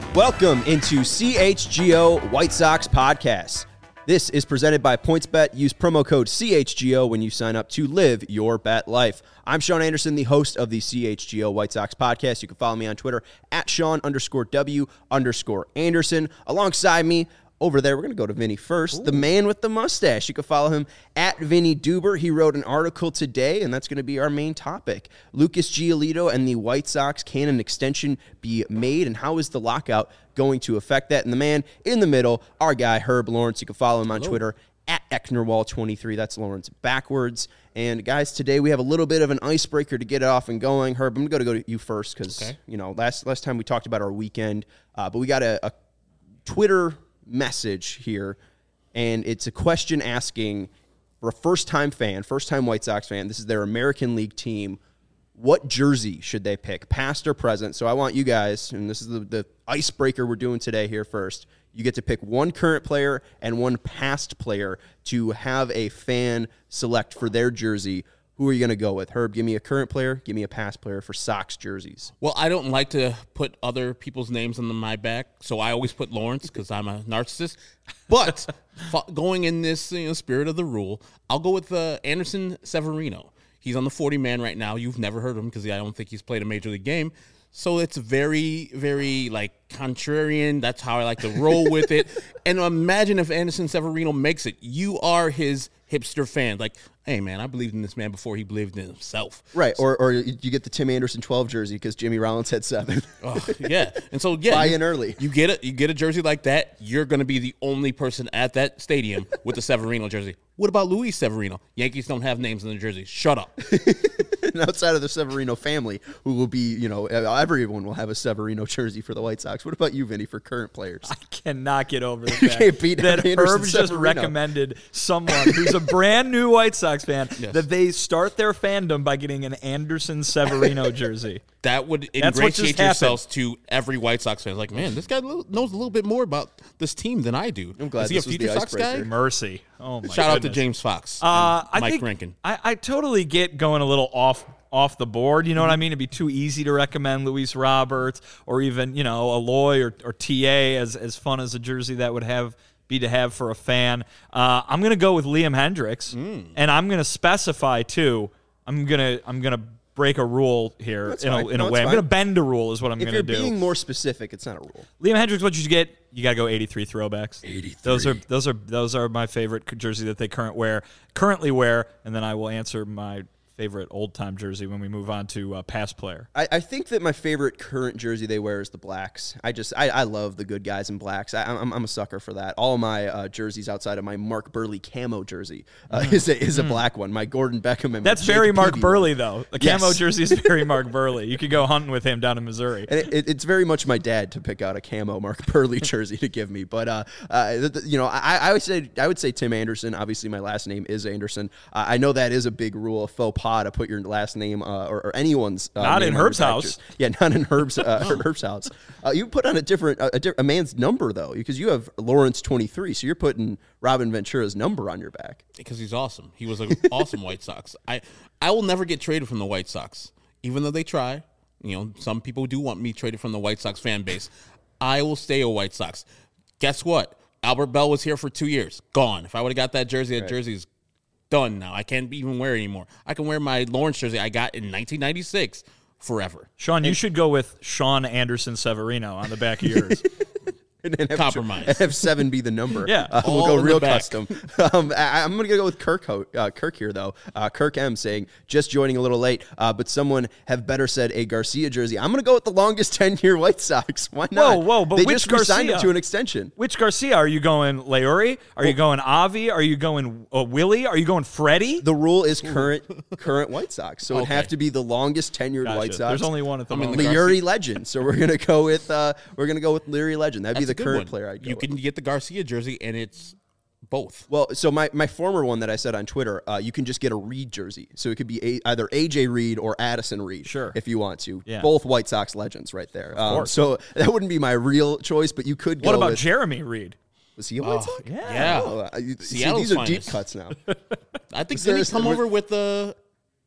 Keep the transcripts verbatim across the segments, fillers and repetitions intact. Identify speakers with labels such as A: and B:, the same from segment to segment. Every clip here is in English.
A: Welcome into C H G O White Sox Podcast. This is presented by PointsBet. Use promo code C H G O when you sign up to live your bet life. I'm Sean Anderson, the host of the C H G O White Sox Podcast. You can follow me on Twitter at Sean underscore W underscore Anderson. Alongside me, over there, we're going to go to Vinny first. Ooh. The man with the mustache. You can follow him at Vinny Duber. He wrote an article today, and that's going to be our main topic. Lucas Giolito and the White Sox, can an extension be made, and how is the lockout going to affect that? And the man in the middle, our guy, Herb Lawrence. You can follow him on Hello. Twitter at Ecknerwall twenty-three. That's Lawrence backwards. And, guys, today we have a little bit of an icebreaker to get it off and going. Herb, I'm going to go to you first because, okay. you know, last, last time we talked about our weekend, uh, but we got a, a Twitter message here, and it's a question asking for a first-time fan, first-time White Sox fan. This is their American League team. What jersey should they pick, past or present? So I want you guys, and this is the, the icebreaker we're doing today here first. You get to pick one current player and one past player to have a fan select for their jersey. Who are you going to go with? Herb, give me a current player. Give me a past player for Sox jerseys.
B: Well, I don't like to put other people's names on my back, so I always put Lawrence because I'm a narcissist. But going in this you know, spirit of the rule, I'll go with uh, Anderson Severino. He's on the forty-man right now. You've never heard of him because I don't think he's played a Major League game. So it's very, very, like, contrarian. That's how I like to roll with it. And imagine if Anderson Severino makes it. You are his hipster fan. Like, hey, man, I believed in this man before he believed in himself.
A: Right, or or you get the Tim Anderson twelve jersey because Jimmy Rollins had seven.
B: oh, yeah, and so, yeah.
A: Buy
B: you,
A: in early.
B: You get, a, you get a jersey like that, you're going to be the only person at that stadium with the Severino jersey. What about Luis Severino? Yankees don't have names in their jerseys. Shut up.
A: And outside of the Severino family, who will be, you know, everyone will have a Severino jersey for the White Sox. What about you, Vinny, for current players?
C: I cannot get over the
A: you
C: fact
A: can't beat
C: that
A: Anderson
C: Herb just
A: Severino.
C: recommended someone who's a brand new White Sox fan
B: yes.
C: that they start their fandom by getting an Anderson Severino jersey.
B: That would
C: That's
B: ingratiate yourselves to every White Sox fan. Like, man, this guy knows a little bit more about this team than I do.
A: I'm glad
B: Is he
A: this
B: a
A: was
B: future
A: the
B: Sox
A: icebreaker.
B: guy?
C: Mercy. Oh, my
B: Shout
C: goodness.
B: out to James Fox
C: Uh,
B: and
C: I
B: Mike
C: think
B: Rankin.
C: I, I totally get going a little off off the board. You know what I mean? It'd be too easy to recommend Luis Roberts or even, you know, Aloy or, or T A as, as fun as a jersey that would have be to have for a fan. Uh, I'm going to go with Liam Hendricks, mm. and I'm going to specify, too, I'm going to I'm gonna break a rule here
A: That's
C: in
A: fine.
C: a, in
A: no,
C: a way.
A: fine.
C: I'm going to bend a rule is what I'm going to do.
A: If you're being more specific, it's not a rule.
C: Liam Hendricks, what you should get, you got to go eighty-three throwbacks.
A: eighty-three.
C: Those are those are those are my favorite jersey that they current wear, currently wear, and then I will answer my favorite old-time jersey when we move on to uh, past player.
A: I, I think that my favorite current jersey they wear is the blacks. I just I, I love the good guys in blacks. I, I'm I'm a sucker for that. All my uh, jerseys outside of my Mark Burley camo jersey uh, mm. is a is a mm. black one. My Gordon Beckham and
C: that's
A: my
C: very
A: Jake
C: Mark
A: Peavy
C: Burley
A: one.
C: though. A camo
A: yes.
C: jersey is very Mark Burley. You could go hunting with him down in Missouri.
A: And it, it, it's very much my dad to pick out a camo Mark Burley jersey to give me. But uh, uh the, the, you know, I, I would say I would say Tim Anderson. Obviously, my last name is Anderson. Uh, I know that is a big rule, a faux pas to put your last name uh, or, or anyone's uh,
C: not
A: name
C: in
A: on
C: Herb's
A: your
C: house.
A: Jersey. Yeah, not in Herb's uh, Herb's house. Uh, you put on a different a, a, di- a man's number though, because you have Lawrence twenty-three, so you're putting Robin Ventura's number on your back.
B: Because he's awesome. He was an awesome White Sox. I I will never get traded from the White Sox, even though they try. You know, some people do want me traded from the White Sox fan base. I will stay a White Sox. Guess what? Albert Bell was here for two years. Gone. If I would have got that jersey, that right. jersey's done now. I can't even wear it anymore. I can wear my Lawrence jersey I got in nineteen ninety-six forever.
C: Sean,
B: and,
C: you should go with Sean Anderson Severino on the back of yours.
A: And then have
B: compromise.
A: And have seven be the number.
C: Yeah,
A: uh, we'll
B: All
A: go
B: in
A: real
B: the back.
A: custom. Um, I, I'm going to go with Kirk. Ho- uh, Kirk here though. Uh, Kirk M saying just joining a little late, uh, but someone have better said a Garcia jersey. I'm going to go with the longest ten-year White Sox. Why not?
C: Whoa, whoa! But
A: they
C: which
A: just signed him
C: Garcia?
A: to an extension.
C: Which Garcia are you going? Lauri? Are
A: well,
C: you going Avi? Are you going uh, Willie? Are you going Freddie?
A: The rule is current current White Sox, so
B: okay.
A: it'd have to be the longest tenured
C: Gotcha.
A: White Sox.
C: There's only one at the
B: I'm in
C: moment.
B: the
A: Leary Legend. So we're gonna go with uh, we're gonna go with Leary Legend. That'd
B: That's
A: be
B: a
A: the
B: good
A: current
B: one.
A: player I'd go
B: You
A: with.
B: can get the Garcia jersey, and it's both.
A: Well, so my, my former one that I said on Twitter, uh, you can just get a Reed jersey. So it could be a, either A J Reed or Addison Reed,
C: sure,
A: if you want to.
C: Yeah.
A: Both White Sox legends right there.
C: Of
A: Um,
C: course.
A: so that wouldn't be my real choice, but you could go
C: What about
A: with,
C: Jeremy Reed?
A: Was he a White
B: Oh,
A: Sox?
C: Yeah.
B: Yeah.
A: Oh, uh, you- see,
B: Seattle's
A: these are
B: finest.
A: deep cuts now.
B: I think
A: Is there-
B: did he come
A: is-
B: over with the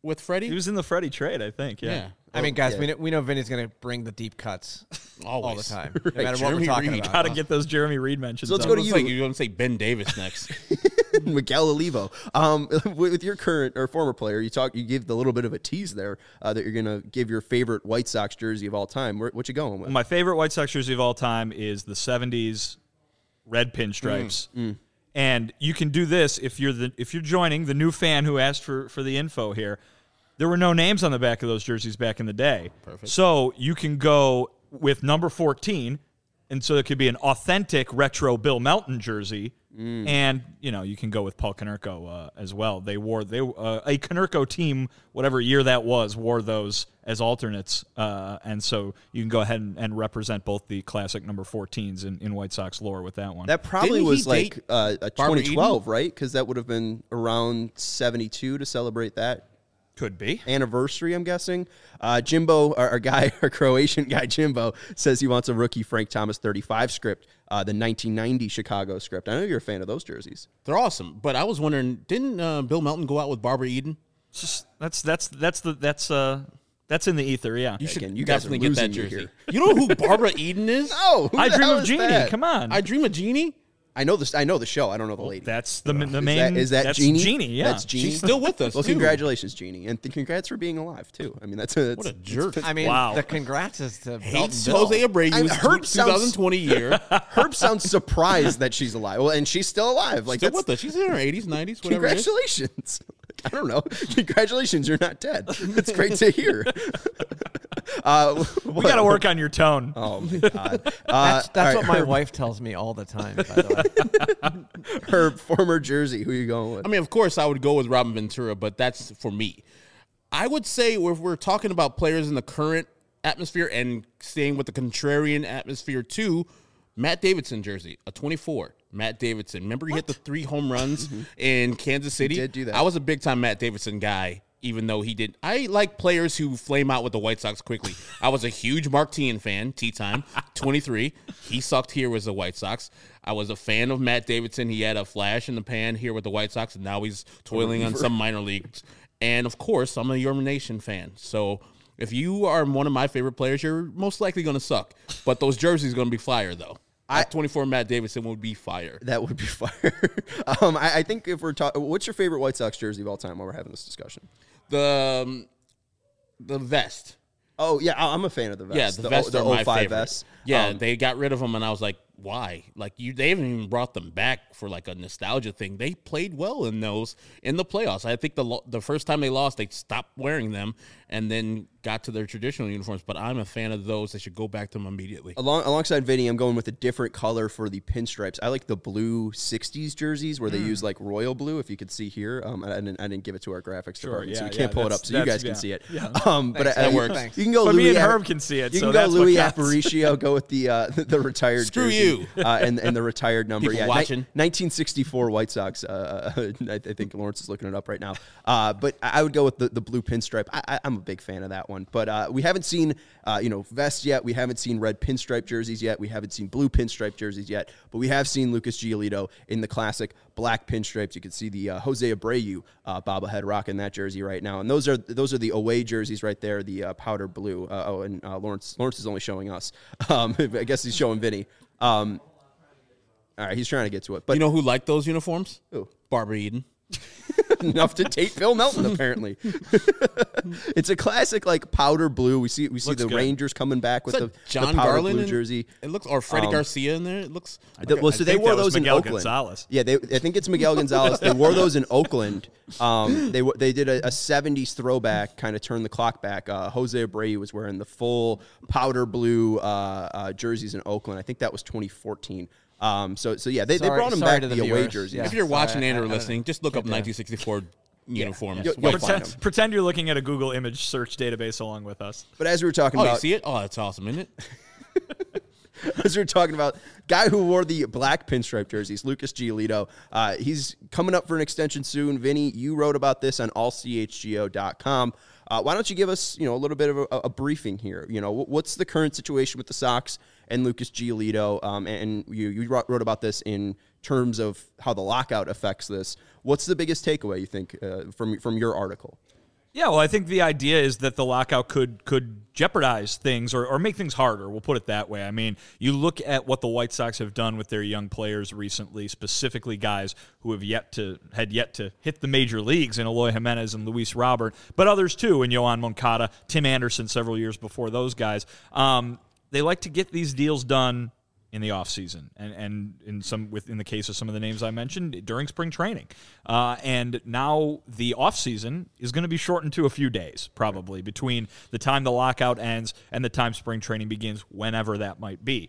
B: with Freddie?
C: He was in the Freddie trade, I think. Yeah.
B: yeah.
D: I mean, guys,
A: yeah.
D: we know, we know Vinny's going to bring the deep cuts all the
B: Always.
D: time, no matter what
B: Jeremy
D: we're talking
B: Reed.
D: about.
C: Got to get those Jeremy Reed mentions.
A: So let's
C: up.
A: go to
B: Looks
A: you.
B: like you're going to say Ben Davis next.
A: Miguel Olivo. Um, with your current or former player, you talk. You gave the little bit of a tease there uh, that you're going to give your favorite White Sox jersey of all time. Where, what you going with?
C: My favorite White Sox jersey of all time is the seventies red pinstripes.
A: Mm, mm.
C: And you can do this if you're the if you're joining the new fan who asked for, for the info here. There were no names on the back of those jerseys back in the day.
B: Perfect.
C: So you can go with number fourteen, and so it could be an authentic retro Bill Melton jersey. Mm. And, you know, you can go with Paul Konerko uh, as well. They wore they uh, a Konerko team, whatever year that was, wore those as alternates. Uh, and so you can go ahead and, and represent both the classic number fourteens in, in White Sox lore with that one.
A: That probably
B: Didn't he
A: was like
B: date
A: uh, a
B: Barbara
A: twenty twelve, right? Because that would have been around seventy-two to celebrate that
C: Could be.
A: anniversary, I'm guessing. Uh, Jimbo, our, our guy, our Croatian guy, Jimbo, says he wants a rookie Frank Thomas thirty-five script, uh, the nineteen ninety Chicago script. I know you're a fan of those jerseys.
B: They're awesome. But I was wondering, didn't uh, Bill Melton go out with Barbara Eden?
C: It's just, that's that's that's the that's uh that's in the ether, yeah.
B: You should
A: Again, you guys are
B: definitely get that
A: losing me
B: jersey.
A: here.
B: You know who Barbara Eden is?
A: Oh, who
C: I
A: the
C: Dream
A: hell
C: of
A: is
C: Jeannie.
A: that?
C: Come on.
B: I Dream of Jeannie.
A: I know this. I know the show. I don't know the lady.
C: That's the the
A: Is
C: main.
A: that, is that
C: that's
A: Jeannie?
C: Jeannie, yeah.
A: That's Jeannie.
B: She's still with us,
A: Well,
B: too.
A: congratulations, Jeannie, and th- congrats for being alive too. I mean, that's a that's,
B: What a jerk.
D: I mean,
C: Wow.
D: the congrats is to Belton
B: Hates
D: Bill.
B: Jose Abreu's
A: I- Herb sounds-
B: twenty twenty year.
A: Herb sounds surprised that she's alive. Well, and she's still alive. Like
B: Still
A: that's
B: with us. She's in her eighties, nineties, whatever it is.
A: congratulations. I don't know. Congratulations, you're not dead. That's great to hear. uh,
C: We got to work on your tone.
A: Oh my god. Uh,
D: That's, that's
A: all
D: what
A: right,
D: my
A: Herb,
D: wife tells me all the time, by the way.
A: Herb, former Jersey. Who are you going with?
B: I mean, of course, I would go with Robin Ventura, but that's for me. I would say if we're talking about players in the current atmosphere and staying with the contrarian atmosphere too, Matt Davidson jersey, a twenty-four. Matt Davidson. Remember he hit the three home runs in Kansas City?
A: did do that.
B: I was a big-time Matt Davidson guy, even though he did. I like players who flame out with the White Sox quickly. I was a huge Mark Teahan fan, T-Time, twenty-three. He sucked here with the White Sox. I was a fan of Matt Davidson. He had a flash in the pan here with the White Sox, and now he's toiling on some minor leagues. And, of course, I'm a Your Nation fan. So if you are one of my favorite players, you're most likely going to suck. But those jerseys are going to be fire, though. I, twenty-four Matt Davidson would be fire.
A: That would be fire. um, I, I think if we're talking, what's your favorite White Sox jersey of all time while we're having this discussion?
B: The um, the vest.
A: Oh, yeah, I- I'm a fan of the vest.
B: Yeah, the, vests
A: the
B: are my
A: oh five
B: favorite.
A: vests.
B: Yeah,
A: Um,
B: they got rid of them, and I was like, why? Like you, they haven't even brought them back for like a nostalgia thing. They played well in those in the playoffs. I think the lo- the first time they lost, they stopped wearing them and then got to their traditional uniforms. But I'm a fan of those. They should go back to them immediately.
A: Along, alongside Vinny, I'm going with a different color for the pinstripes. I like the blue sixties jerseys where they
C: Mm.
A: use like royal blue. If you could see here, um, I, didn't, I didn't give it to our graphics department, so
C: yeah,
A: we can't
C: yeah,
A: pull it
C: that's-
A: up so you
C: that's-
A: guys can
C: yeah,
A: see it.
C: yeah.
A: Um, but
D: Thanks,
A: I,
D: that
A: I-
D: works. Thanks.
A: You can go.
C: But
A: Louis
C: me and
A: Ap-
C: Herb can see it,
A: You
C: so
A: can go
C: that's what
A: Louis
C: counts.
A: Aparicio. Go with the uh, the, the retired.
B: Screw
A: jersey,
B: you.
A: uh, and and the retired number.
B: People
A: yeah,
B: watching.
A: Ni- nineteen sixty-four White Sox. Uh, I, I think Lawrence is looking it up right now. Uh, but I I would go with the, the blue pinstripe. I, I, I'm a big fan of that one. But uh, we haven't seen uh, you know vests yet. We haven't seen red pinstripe jerseys yet. We haven't seen blue pinstripe jerseys yet. But we have seen Lucas Giolito in the classic black pinstripes. You can see the uh, Jose Abreu uh, bobblehead rocking that jersey right now. And those are those are the away jerseys right there. The uh, powder blue. Uh, oh, and uh, Lawrence Lawrence is only showing us. Um, I guess he's showing Vinny. Um, all right, he's trying to get to it. But
B: You know who liked those uniforms?
A: Who?
B: Barbara Eden.
A: enough to take Phil Melton, apparently. It's a classic, like powder blue. We see we see
C: Looks
A: the
C: good.
A: Rangers coming back with
B: Is
A: the,
B: that John
A: the powder
B: Garland
A: blue
B: in-
A: jersey.
B: It looks or Freddie
A: Um,
B: Garcia in there. It looks.
A: The- well, so
C: I
A: they
C: think
A: wore
C: that was
A: those in
C: Miguel
A: Oakland.
C: Gonzalez.
A: Yeah, they, I think it's Miguel Gonzalez. They wore those in Oakland. Um, they w- they did a, a seventies throwback, kind of turn the clock back. Uh, Jose Abreu was wearing the full powder blue uh, uh, jerseys in Oakland. I think that was twenty fourteen. Um, so so yeah, they, they
D: Sorry-
A: brought them
D: sorry
A: back
D: to
A: the,
D: the
A: away
D: viewers.
A: jerseys.
D: Yeah.
B: If you're
D: Sorry,
B: watching
D: I-
B: and
D: I-
B: or
D: I-
B: listening, just look up
D: can't do it.
B: nineteen sixty-four uniforms.
A: You'll-
B: White
A: you'll find
B: Sox.
A: them.
C: Pretend you're looking at a Google image search database along with us.
A: But as we were talking
B: Oh,
A: about,
B: you see it? Oh, that's awesome, isn't it?
A: as we were talking about, guy who wore the black pinstripe jerseys, Lucas Giolito. Uh, he's coming up for an extension soon. Vinny, you wrote about this on all c h g o dot com. Uh, why don't you give us, you know, a little bit of a, a briefing here? You know, what's the current situation with the Sox and Lucas Giolito? Um, and you, you wrote wrote about this in terms of how the lockout affects this. What's the biggest takeaway you think uh, from from your article?
C: Yeah, well, I think the idea is that the lockout could could jeopardize things or, or make things harder. We'll put it that way. I mean, you look at what the White Sox have done with their young players recently, specifically guys who have yet to had yet to hit the major leagues in Eloy Jimenez and Luis Robert, but others too, in Yohan Moncada, Tim Anderson several years before those guys. Um, they like to get these deals done in the offseason, and and in some with in the case of some of the names I mentioned during spring training, uh, and now the offseason is going to be shortened to a few days probably between the time the lockout ends and the time spring training begins, whenever that might be.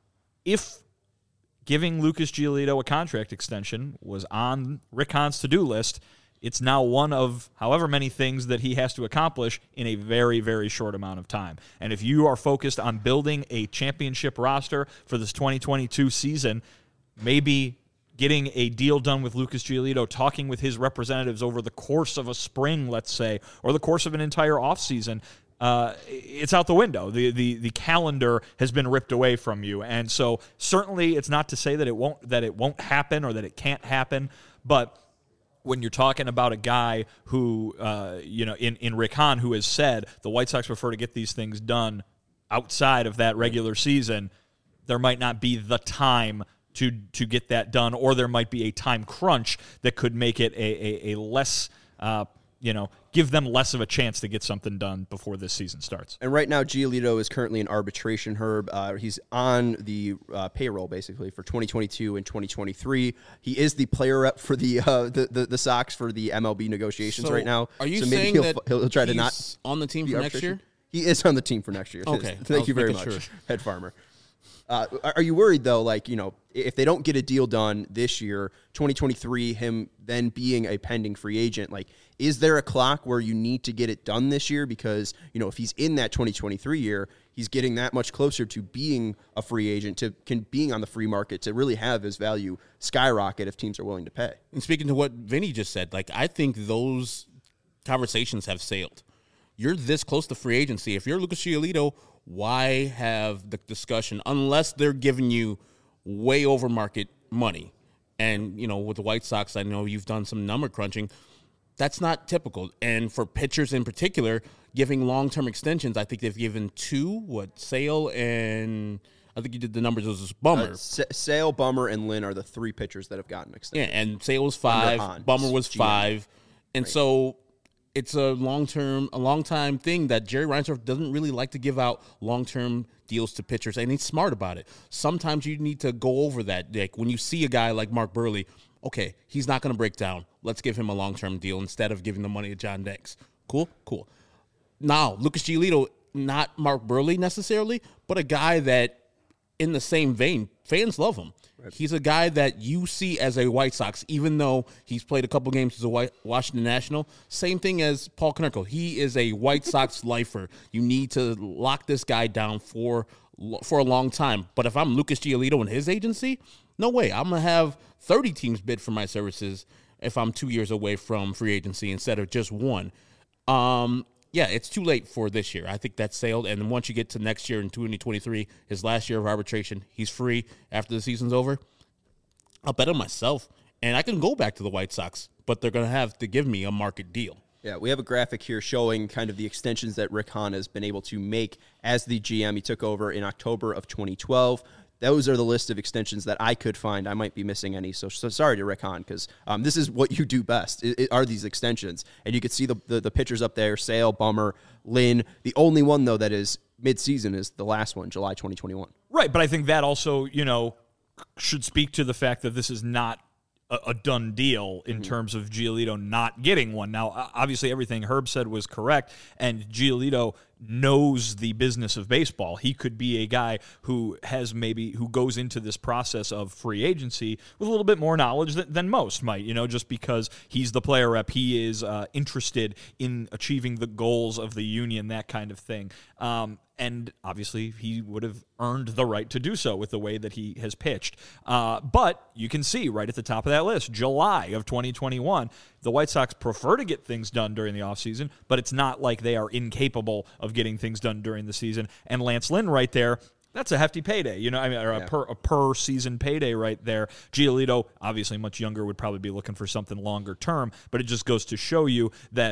C: If giving Lucas Giolito a contract extension was on Rick Hahn's to-do list, it's now one of however many things that he has to accomplish in a very, very short amount of time. And if you are focused on building a championship roster for this twenty twenty-two season, maybe getting a deal done with Lucas Giolito, talking with his representatives over the course of a spring, let's say, or the course of an entire offseason, uh, it's out the window. The, the the calendar has been ripped away from you. And so certainly it's not to say that it won't that it won't happen or that it can't happen, but when you're talking about a guy who, uh, you know, in, in Rick Hahn, who has said the White Sox prefer to get these things done outside of that regular season, there might not be the time to to get that done, or there might be a time crunch that could make it a, a, a less, uh, you know, give them less of a chance to get something done before this season starts.
A: And right now, Giolito is currently in arbitration, Herb. Uh, he's on the uh, payroll, basically, for twenty twenty-two and twenty twenty-three. He is the player rep for the uh, the, the the Sox for the M L B negotiations
B: so
A: right now.
B: Are you
A: so maybe
B: saying
A: he'll,
B: that
A: he'll, he'll try to
B: he's
A: not
B: on the team for next year?
A: He is on the team for next year.
B: Okay.
A: Thank you very much,
B: sure.
A: Head Farmer. Uh, are you worried, though, like, you know, if they don't get a deal done this year, twenty twenty-three, him then being a pending free agent, like, is there a clock where you need to get it done this year? Because, you know, if he's in that twenty twenty-three year, he's getting that much closer to being a free agent, to can, being on the free market, to really have his value skyrocket if teams are willing to pay.
B: And speaking to what Vinny just said, like, I think those conversations have sailed. You're this close to free agency. If you're Lucas Giolito, why have the discussion unless they're giving you way over market money? And, you know, with the White Sox, I know you've done some number crunching. That's not typical. And for pitchers in particular, giving long-term extensions, I think they've given two, what, Sale and I think you did the numbers, it was Bummer.
A: Uh, S- Sale, Bummer, and Lynn are the three pitchers that have gotten extended.
B: Yeah, and Sale was five,
A: Hahn,
B: Bummer was
A: G M.
B: five. And
A: Right.
B: so it's a long-term, a long-time thing that Jerry Reinsdorf doesn't really like to give out long-term deals to pitchers, and he's smart about it. Sometimes you need to go over that. Like when you see a guy like Mark Burley, okay, he's not going to break down. Let's give him a long-term deal instead of giving the money to John Dex. Cool? Cool. Now, Lucas Giolito, not Mark Burley necessarily, but a guy that in the same vein, fans love him. Right. He's a guy that you see as a White Sox, even though he's played a couple games as a White Washington National. Same thing as Paul Konerko. He is a White Sox lifer. You need to lock this guy down for for a long time. But if I'm Lucas Giolito and his agency, no way. I'm going to have thirty teams bid for my services if I'm two years away from free agency instead of just one. Um, yeah, it's too late for this year. I think that's sailed. And then once you get to next year in twenty twenty-three, his last year of arbitration, he's free after the season's over. I'll bet on myself, and I can go back to the White Sox, but they're going to have to give me a market deal.
A: Yeah, we have a graphic here showing kind of the extensions that Rick Hahn has been able to make as the G M. He took over in October of twenty twelve. Those are the list of extensions that I could find. I might be missing any, so, so sorry to Rick Hahn, because um, this is what you do best, it, it are these extensions. And you can see the, the, the pictures up there, Sale, Bummer, Lynn. The only one, though, that is mid-season is the last one, July twenty twenty-one.
C: Right, but I think that also, you know, should speak to the fact that this is not a, a done deal in mm-hmm. terms of Giolito not getting one. Now, obviously, everything Herb said was correct, and Giolito knows the business of baseball. He could be a guy who has maybe who goes into this process of free agency with a little bit more knowledge than, than most might, you know, just because he's the player rep. He is uh, interested in achieving the goals of the union, that kind of thing. Um, and obviously he would have earned the right to do so with the way that he has pitched. Uh, but you can see right at the top of that list, July of twenty twenty-one, the White Sox prefer to get things done during the offseason, but it's not like they are incapable of getting things done during the season. And Lance Lynn right there, that's a hefty payday, you know, I mean, or a,
A: yeah.
C: per, a per season payday right there. Giolito, obviously much younger, would probably be looking for something longer term, but it just goes to show you that,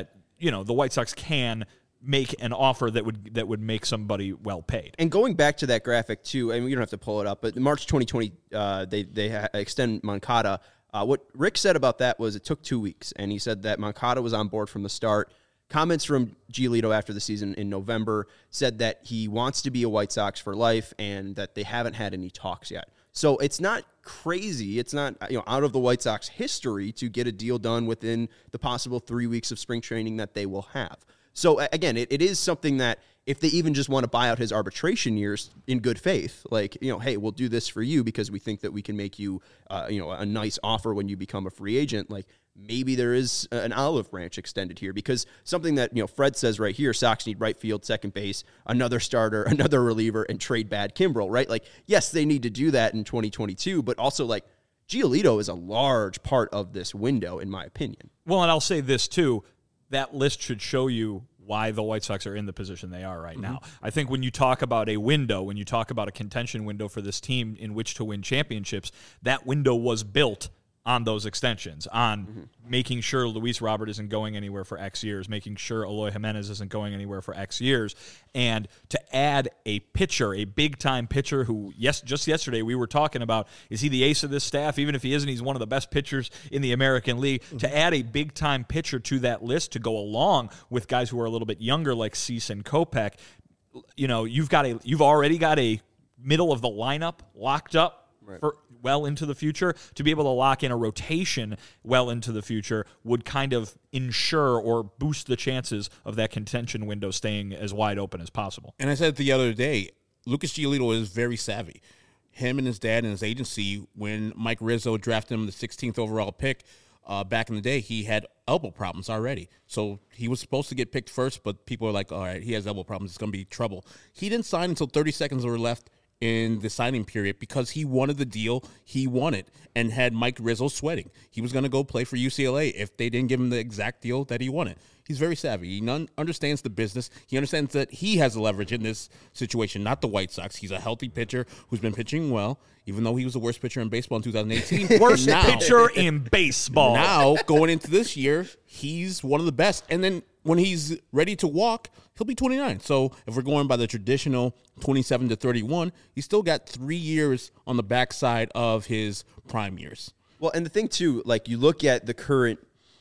C: you know, the White Sox can make an offer that would that would make somebody well paid.
A: And going back to that graphic too, I mean, you don't have to pull it up, but in March twenty twenty, uh, they they ha- extend Moncada. Uh, what Rick said about that was it took two weeks, and he said that Moncada was on board from the start. Comments from Giolito after the season in November said that he wants to be a White Sox for life, and that they haven't had any talks yet. So it's not crazy. It's not, you know, out of the White Sox history to get a deal done within the possible three weeks of spring training that they will have. So again, it, it is something that if they even just want to buy out his arbitration years in good faith, like, you know, hey, we'll do this for you because we think that we can make you, uh, you know, a nice offer when you become a free agent. Like, maybe there is an olive branch extended here, because something that, you know, Fred says right here, Sox need right field, second base, another starter, another reliever, and trade bad Kimbrel, right? Like, yes, they need to do that in twenty twenty-two, but also, like, Giolito is a large part of this window, in my opinion.
C: Well, and I'll say this too, that list should show you why the White Sox are in the position they are right mm-hmm. now. I think when you talk about a window, when you talk about a contention window for this team in which to win championships, that window was built on those extensions, on mm-hmm. making sure Luis Robert isn't going anywhere for X years, making sure Eloy Jimenez isn't going anywhere for X years, and to add a pitcher, a big-time pitcher who, yes, just yesterday we were talking about, is he the ace of this staff? Even if he isn't, he's one of the best pitchers in the American League. Mm-hmm. To add a big-time pitcher to that list to go along with guys who are a little bit younger like Cease and Kopech, you know, you've got a, you've already got a middle of the lineup locked up right. for well into the future. To be able to lock in a rotation well into the future would kind of ensure or boost the chances of that contention window staying as wide open as possible.
B: And I said the other day, Lucas Giolito is very savvy. Him and his dad and his agency, when Mike Rizzo drafted him the sixteenth overall pick uh, back in the day, he had elbow problems already. So he was supposed to get picked first, but people were like, all right, he has elbow problems, it's going to be trouble. He didn't sign until thirty seconds were left in the signing period because he wanted the deal he wanted and had Mike Rizzo sweating. He was going to go play for U C L A if they didn't give him the exact deal that he wanted. He's very savvy. He non- understands the business. He understands that he has the leverage in this situation, not the White Sox. He's a healthy pitcher who's been pitching well, even though he was the worst pitcher in baseball in two thousand eighteen.
C: Worst
B: now,
C: pitcher in baseball.
B: Now, going into this year, he's one of the best. And then when he's ready to walk, he'll be twenty-nine. So if we're going by the traditional twenty-seven to thirty-one, he's still got three years on the backside of his prime years.
A: Well, and the thing, too, like you look at the current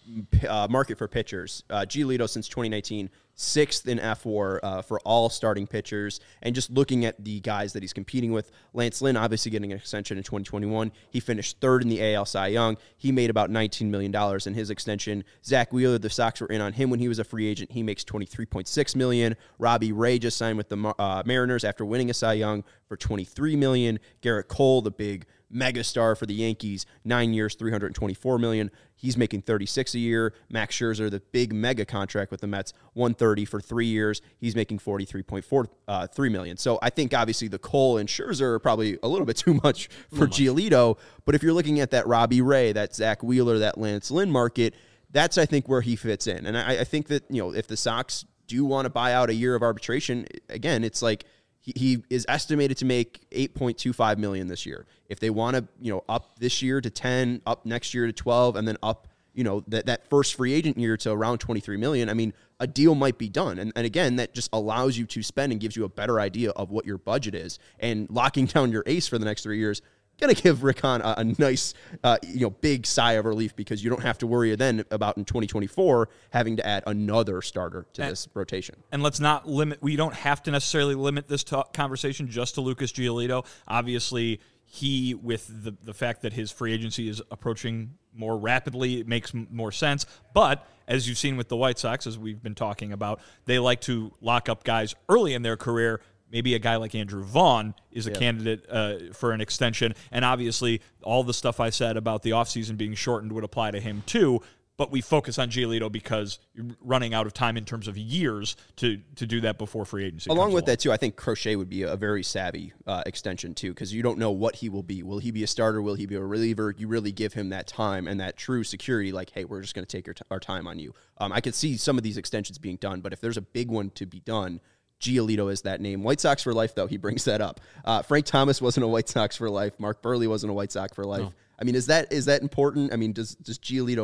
A: uh, market for pitchers, uh, Giolito since twenty nineteen, sixth in F W A R uh, for all starting pitchers. And just looking at the guys that he's competing with, Lance Lynn obviously getting an extension in twenty twenty-one. He finished third in the A L Cy Young. He made about nineteen million dollars in his extension. Zach Wheeler, the Sox were in on him when he was a free agent. He makes twenty-three point six million dollars. Robbie Ray just signed with the uh, Mariners after winning a Cy Young for twenty-three million dollars. Garrett Cole, the big megastar for the Yankees, nine years, three hundred twenty-four million dollars. He's making thirty-six a year. Max Scherzer, the big mega contract with the Mets, one hundred thirty for three years. He's making forty-three point four three million dollars. So I think obviously the Cole and Scherzer are probably a little bit too much for Giolito. But if you're looking at that Robbie Ray, that Zach Wheeler, that Lance Lynn market, that's I think where he fits in. And I, I think that, you know, if the Sox do want to buy out a year of arbitration, again, it's like he, he is estimated to make eight point two five million dollars this year. If they want to, you know, up this year to ten, up next year to twelve, and then up, you know, that, that first free agent year to around twenty-three million dollars, I mean, a deal might be done. And, and again, that just allows you to spend and gives you a better idea of what your budget is. And locking down your ace for the next three years, going to give Rick Hahn a, a nice, uh, you know, big sigh of relief, because you don't have to worry then about in twenty twenty-four having to add another starter to
C: and,
A: this rotation.
C: And let's not limit, we don't have to necessarily limit this talk, conversation just to Lucas Giolito. Obviously, he, with the, the fact that his free agency is approaching more rapidly, it makes m- more sense. But as you've seen with the White Sox, as we've been talking about, they like to lock up guys early in their career. Maybe a guy like Andrew Vaughn is a yep. candidate uh, for an extension. And obviously, all the stuff I said about the offseason being shortened would apply to him too. But we focus on Giolito because you're running out of time in terms of years to to do that before free agency.
A: Along with
C: along.
A: that, too, I think Crochet would be a very savvy uh, extension, too, because you don't know what he will be. Will he be a starter? Will he be a reliever? You really give him that time and that true security, like, hey, we're just going to take our, t- our time on you. Um, I could see some of these extensions being done, but if there's a big one to be done, Giolito is that name. White Sox for life, though, he brings that up. Uh, Frank Thomas wasn't a White Sox for life. Mark Burley wasn't a White Sox for life. No. I mean, is that is that important? I mean, does does Giolito,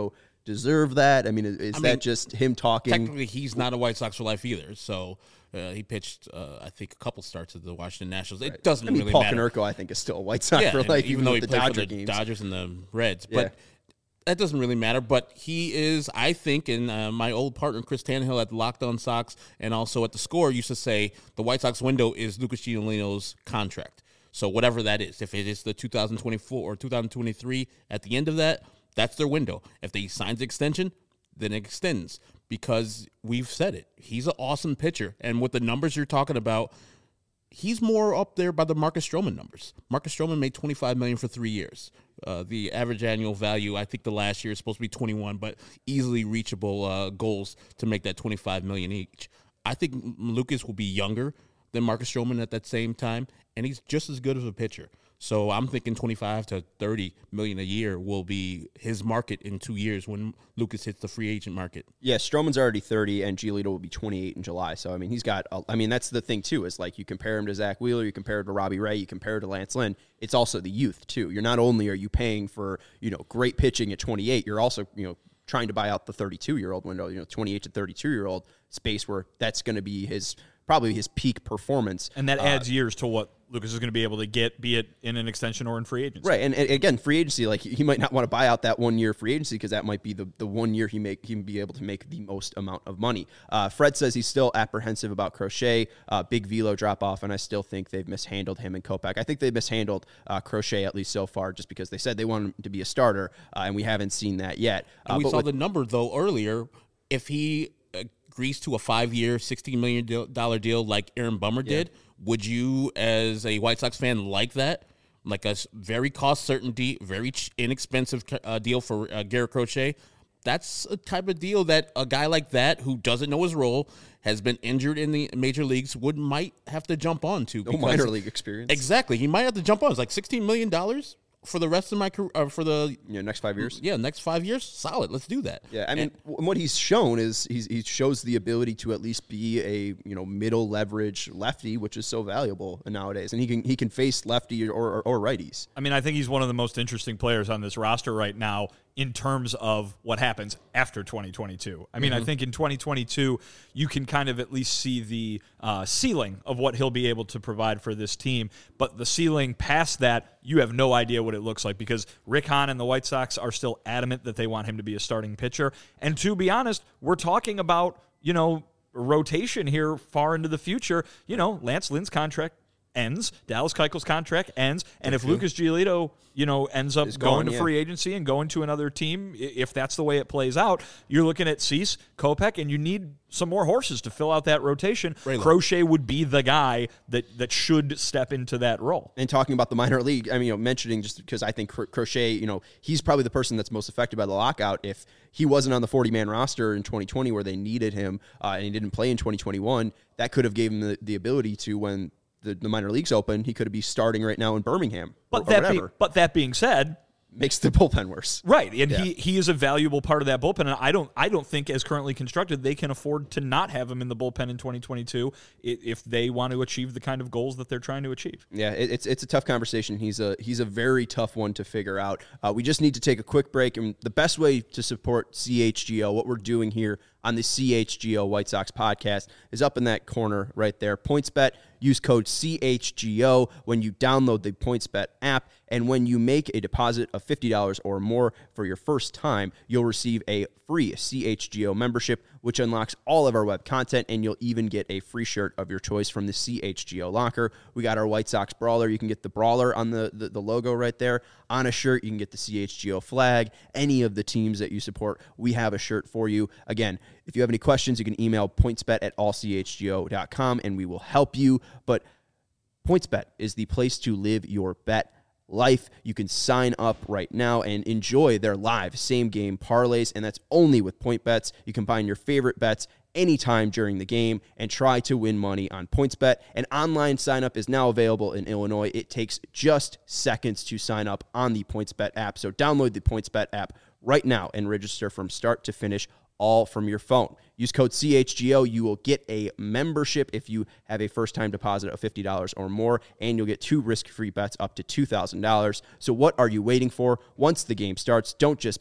A: deserve that? I mean, is, is
B: I
A: that
B: mean,
A: just him talking?
B: Technically, he's not a White Sox for life either. So uh, he pitched, uh, I think, a couple starts at the Washington Nationals. It doesn't
A: I mean,
B: really
A: Paul
B: matter.
A: Konerko, I think, is still a White Sox
B: Yeah,
A: for
B: and
A: life,
B: even,
A: even
B: though
A: with
B: he
A: the
B: played
A: Dodger
B: for the
A: games.
B: Dodgers and the Reds.
A: Yeah.
B: But that doesn't really matter. But he is, I think, and uh, my old partner Chris Tannehill at the Locked On Sox and also at the Score used to say the White Sox window is Lucas Giolito's contract. So whatever that is, if it is the two thousand twenty-four or two thousand twenty-three at the end of that, that's their window. If they sign the extension, then it extends, because we've said it. He's an awesome pitcher. And with the numbers you're talking about, he's more up there by the Marcus Stroman numbers. Marcus Stroman made twenty-five million dollars for three years. Uh, the average annual value, I think the last year is supposed to be twenty-one, but easily reachable uh, goals to make that twenty-five million dollars each. I think Lucas will be younger than Marcus Stroman at that same time, and he's just as good as a pitcher. So I'm thinking twenty-five to thirty million a year will be his market in two years when Lucas hits the free agent market.
A: Yeah, Stroman's already thirty, and Giolito will be twenty-eight in July. So, I mean, he's got, a, I mean, that's the thing, too, is like you compare him to Zach Wheeler, you compare him to Robbie Ray, you compare him to Lance Lynn. It's also the youth, too. You're not only are you paying for, you know, great pitching at twenty-eight, you're also, you know, trying to buy out the thirty-two-year-old window, you know, twenty-eight to thirty-two-year-old space where that's going to be his, probably his peak performance.
C: And that
A: uh,
C: adds years to what Lucas is going to be able to get, be it in an extension or in free agency.
A: Right, and, and again, free agency, like he might not want to buy out that one year free agency because that might be the, the one year he make he can be able to make the most amount of money. Uh, Fred says he's still apprehensive about Crochet, uh, big velo drop off, and I still think they've mishandled him and Kopech. I think they mishandled uh, Crochet at least so far, just because they said they want him to be a starter, uh, and we haven't seen that yet. Uh,
B: And we
A: but
B: saw
A: with-
B: the number, though, earlier. If he agrees to a five-year, sixteen million dollars deal like Aaron Bummer
A: Yeah.
B: did, would you, as a White Sox fan, like that? Like a s- very cost certainty, very ch- inexpensive uh, deal for uh, Garrett Crochet? That's a type of deal that a guy like that who doesn't know his role, has been injured in the major leagues, would might have to jump on to.
A: no minor league experience.
B: Exactly. He might have to jump on. It's like sixteen million dollars for the rest of my career, uh, for the
A: You know, next five years.
B: yeah, next five years, solid. Let's do that.
A: Yeah, I mean,
B: And-
A: w what he's shown is he's, he shows the ability to at least be a you know middle leverage lefty, which is so valuable nowadays, and he can he can face lefty or, or, or righties.
C: I mean, I think he's one of the most interesting players on this roster right now in terms of what happens after twenty twenty-two. I mean, I think in twenty twenty-two, you can kind of at least see the uh, ceiling of what he'll be able to provide for this team. But the ceiling past that, you have no idea what it looks like, because Rick Hahn and the White Sox are still adamant that they want him to be a starting pitcher. And to be honest, we're talking about, you know, rotation here far into the future. You know, Lance Lynn's contract ends, Dallas Keuchel's contract ends, and if Lucas Giolito, you know, ends up
A: Is
C: going
A: gone,
C: to
A: yeah.
C: free agency and going to another team, i- if that's the way it plays out, you're looking at Cease, Kopech, and you need some more horses to fill out that rotation.
B: Raylo.
C: Crochet would be the guy that that should step into that role.
A: And talking about the minor league, I mean, you know, mentioning just because I think Cro- Crochet, you know, he's probably the person that's most affected by the lockout. If he wasn't on the forty-man roster in twenty twenty where they needed him uh, and he didn't play in twenty twenty-one, that could have given him the, the ability to, when the, the minor leagues open, he could be starting right now in Birmingham
C: But
A: or, or
C: that be,
A: whatever.
C: but that being said,
A: Makes the bullpen worse.
C: right, and
A: Yeah.
C: he, he is a valuable part of that bullpen, and I don't I don't think, as currently constructed, they can afford to not have him in the bullpen in twenty twenty-two i- if they want to achieve the kind of goals that they're trying to achieve.
A: Yeah, it, it's it's a tough conversation. He's a he's a very tough one to figure out. Uh, we just need to take a quick break, and the best way to support C H G O, what we're doing here on the C H G O White Sox podcast, is up in that corner right there. PointsBet. Use code C H G O when you download the PointsBet app, and when you make a deposit of fifty dollars or more for your first time, you'll receive a free C H G O membership, which unlocks all of our web content, and you'll even get a free shirt of your choice from the C H G O locker. We got our White Sox Brawler. You can get the Brawler on the, the, the logo right there. On a shirt, you can get the C H G O flag. Any of the teams that you support, we have a shirt for you. Again, if you have any questions, you can email pointsbet at all c h g o dot com, and we will help you. But PointsBet is the place to live your bet life. You can sign up right now and enjoy their live same-game parlays, and that's only with PointBets. You combine your favorite bets anytime during the game and try to win money on PointsBet. An online sign-up is now available in Illinois. It takes just seconds to sign up on the PointsBet app, so download the PointsBet app right now and register from start to finish, all from your phone. Use code C H G O. You will get a membership if you have a first-time deposit of fifty dollars or more, and you'll get two risk-free bets up to two thousand dollars. So what are you waiting for? Once the game starts, don't just bet.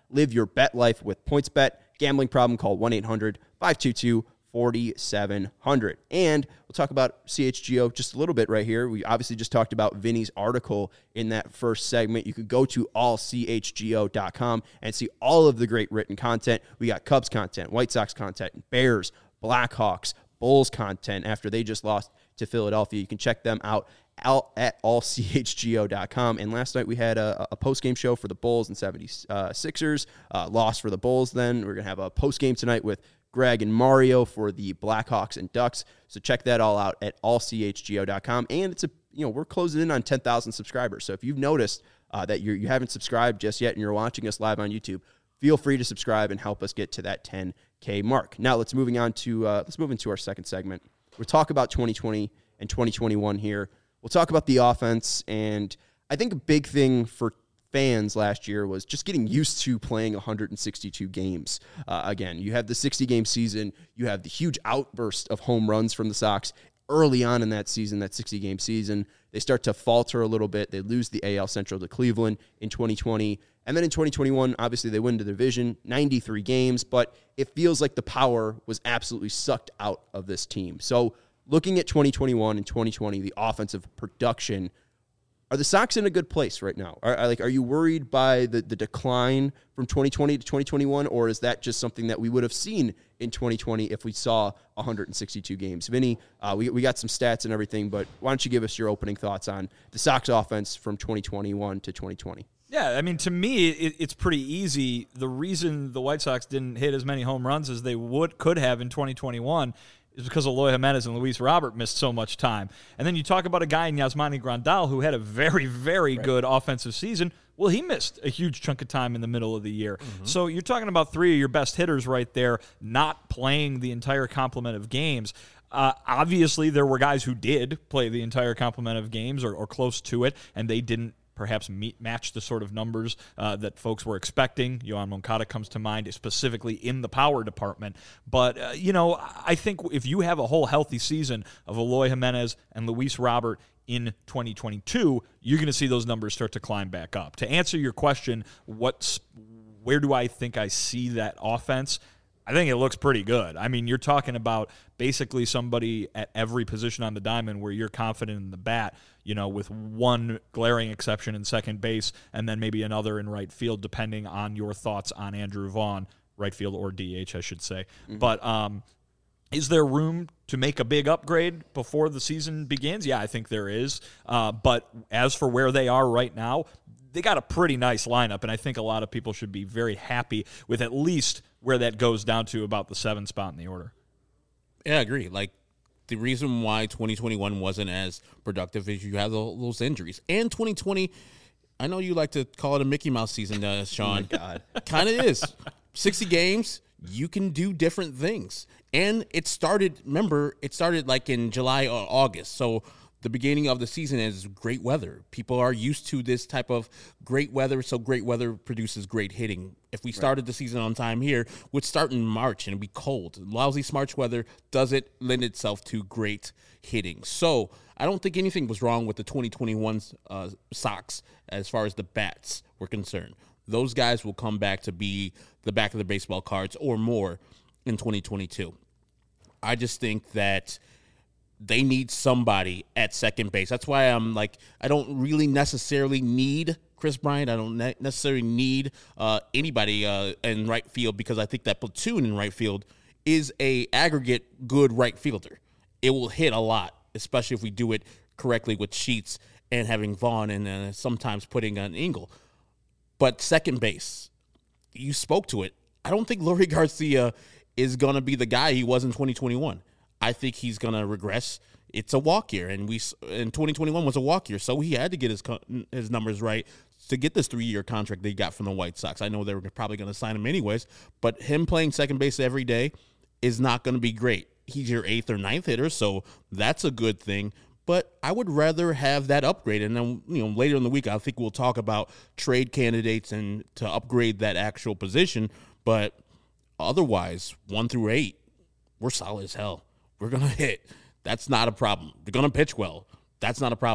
A: Live your bet life with PointsBet. Gambling problem, call one eight hundred five two two four seven zero zero. And we'll talk about C H G O just a little bit right here. We obviously just talked about Vinny's article in that first segment. You could go to all c h g o dot com and see all of the great written content. We got Cubs content, White Sox content, Bears, Blackhawks, Bulls content after they just lost to Philadelphia. You can check them out at all c h g o dot com. And last night we had a, a post-game show for the Bulls and seventy-sixers. Uh, loss for the Bulls then. We're going to have a post-game tonight with Greg and Mario for the Blackhawks and Ducks. So check that all out at all c h g o dot com. And it's a, you know, we're closing in on ten thousand subscribers. So if you've noticed uh, that you're, you haven't subscribed just yet and you're watching us live on YouTube, feel free to subscribe and help us get to that ten K mark. Now let's moving on to uh, let's move into our second segment. We'll talk about twenty twenty and twenty twenty-one here. We'll talk about the offense, and I think a big thing for fans last year was just getting used to playing one hundred sixty-two games. Uh, again, you have the sixty-game season. You have the huge outburst of home runs from the Sox early on in that season, that sixty-game season. They start to falter a little bit. They lose the A L Central to Cleveland in twenty twenty. And then in twenty twenty-one, obviously they win the division, ninety-three games, but it feels like the power was absolutely sucked out of this team. So looking at twenty twenty-one and twenty twenty, the offensive production, are the Sox in a good place right now? Are, are like, are you worried by the, the decline from twenty twenty to twenty twenty-one, or is that just something that we would have seen in twenty twenty if we saw one hundred sixty-two games? Vinny, uh, we, we got some stats and everything, but why don't you give us your opening thoughts on the Sox offense from twenty twenty-one to twenty twenty?
C: Yeah, I mean, to me, it, it's pretty easy. The reason the White Sox didn't hit as many home runs as they would could have in twenty twenty-one is because Eloy Jimenez and Luis Robert missed so much time. And then you talk about a guy in Yasmani Grandal who had a very, very right. good offensive season. Well, he missed a huge chunk of time in the middle of the year. Mm-hmm. So you're talking about three of your best hitters right there not playing the entire complement of games. Uh, obviously, there were guys who did play the entire complement of games or, or close to it, and they didn't perhaps meet, match the sort of numbers uh, that folks were expecting. Yohan Moncada comes to mind, specifically in the power department. But, uh, you know, I think if you have a whole healthy season of Eloy Jimenez and Luis Robert in twenty twenty-two, you're going to see those numbers start to climb back up. To answer your question, what's where do I think I see that offense? I think it looks pretty good. I mean, you're talking about basically somebody at every position on the diamond where you're confident in the bat, you know, with one glaring exception in second base and then maybe another in right field, depending on your thoughts on Andrew Vaughn, right field or D H, I should say. Mm-hmm. But um, is there room to make a big upgrade before the season begins? Yeah, I think there is. Uh, but as for where they are right now, they got a pretty nice lineup, and I think a lot of people should be very happy with at least where that goes down to about the seventh spot in the order.
B: Yeah, I agree. Like, the reason why twenty twenty-one wasn't as productive is you have those injuries. And twenty twenty, I know you like to call it a Mickey Mouse season, uh, Sean.
A: Oh, my God.
B: Kind of is. sixty games, you can do different things. And it started, remember, it started like in July or August. So the beginning of the season is great weather. People are used to this type of great weather, so great weather produces great hitting. If we started right. the season on time here, we'd start in March and it'd be cold. Lousy March weather doesn't lend itself to great hitting. So I don't think anything was wrong with the twenty twenty-one uh, Sox as far as the bats were concerned. Those guys will come back to be the back of the baseball cards or more in twenty twenty-two. I just think that they need somebody at second base. That's why I'm like, I don't really necessarily need Chris Bryant. I don't ne- necessarily need uh, anybody uh, in right field because I think that platoon in right field is a aggregate good right fielder. It will hit a lot, especially if we do it correctly with Sheets and having Vaughn and uh, sometimes putting an Engel. But second base, you spoke to it. I don't think Leury Garcia is going to be the guy he was in twenty twenty-one. I think he's going to regress. It's a walk year, and we in twenty twenty-one was a walk year, so he had to get his his numbers right to get this three-year contract they got from the White Sox. I know they were probably going to sign him anyways, but him playing second base every day is not going to be great. He's your eighth or ninth hitter, so that's a good thing. But I would rather have that upgrade, and then you know later in the week I think we'll talk about trade candidates and to upgrade that actual position. But otherwise, one through eight, we're solid as hell. We're going to hit. That's not a problem. They're going to pitch well. That's not a problem.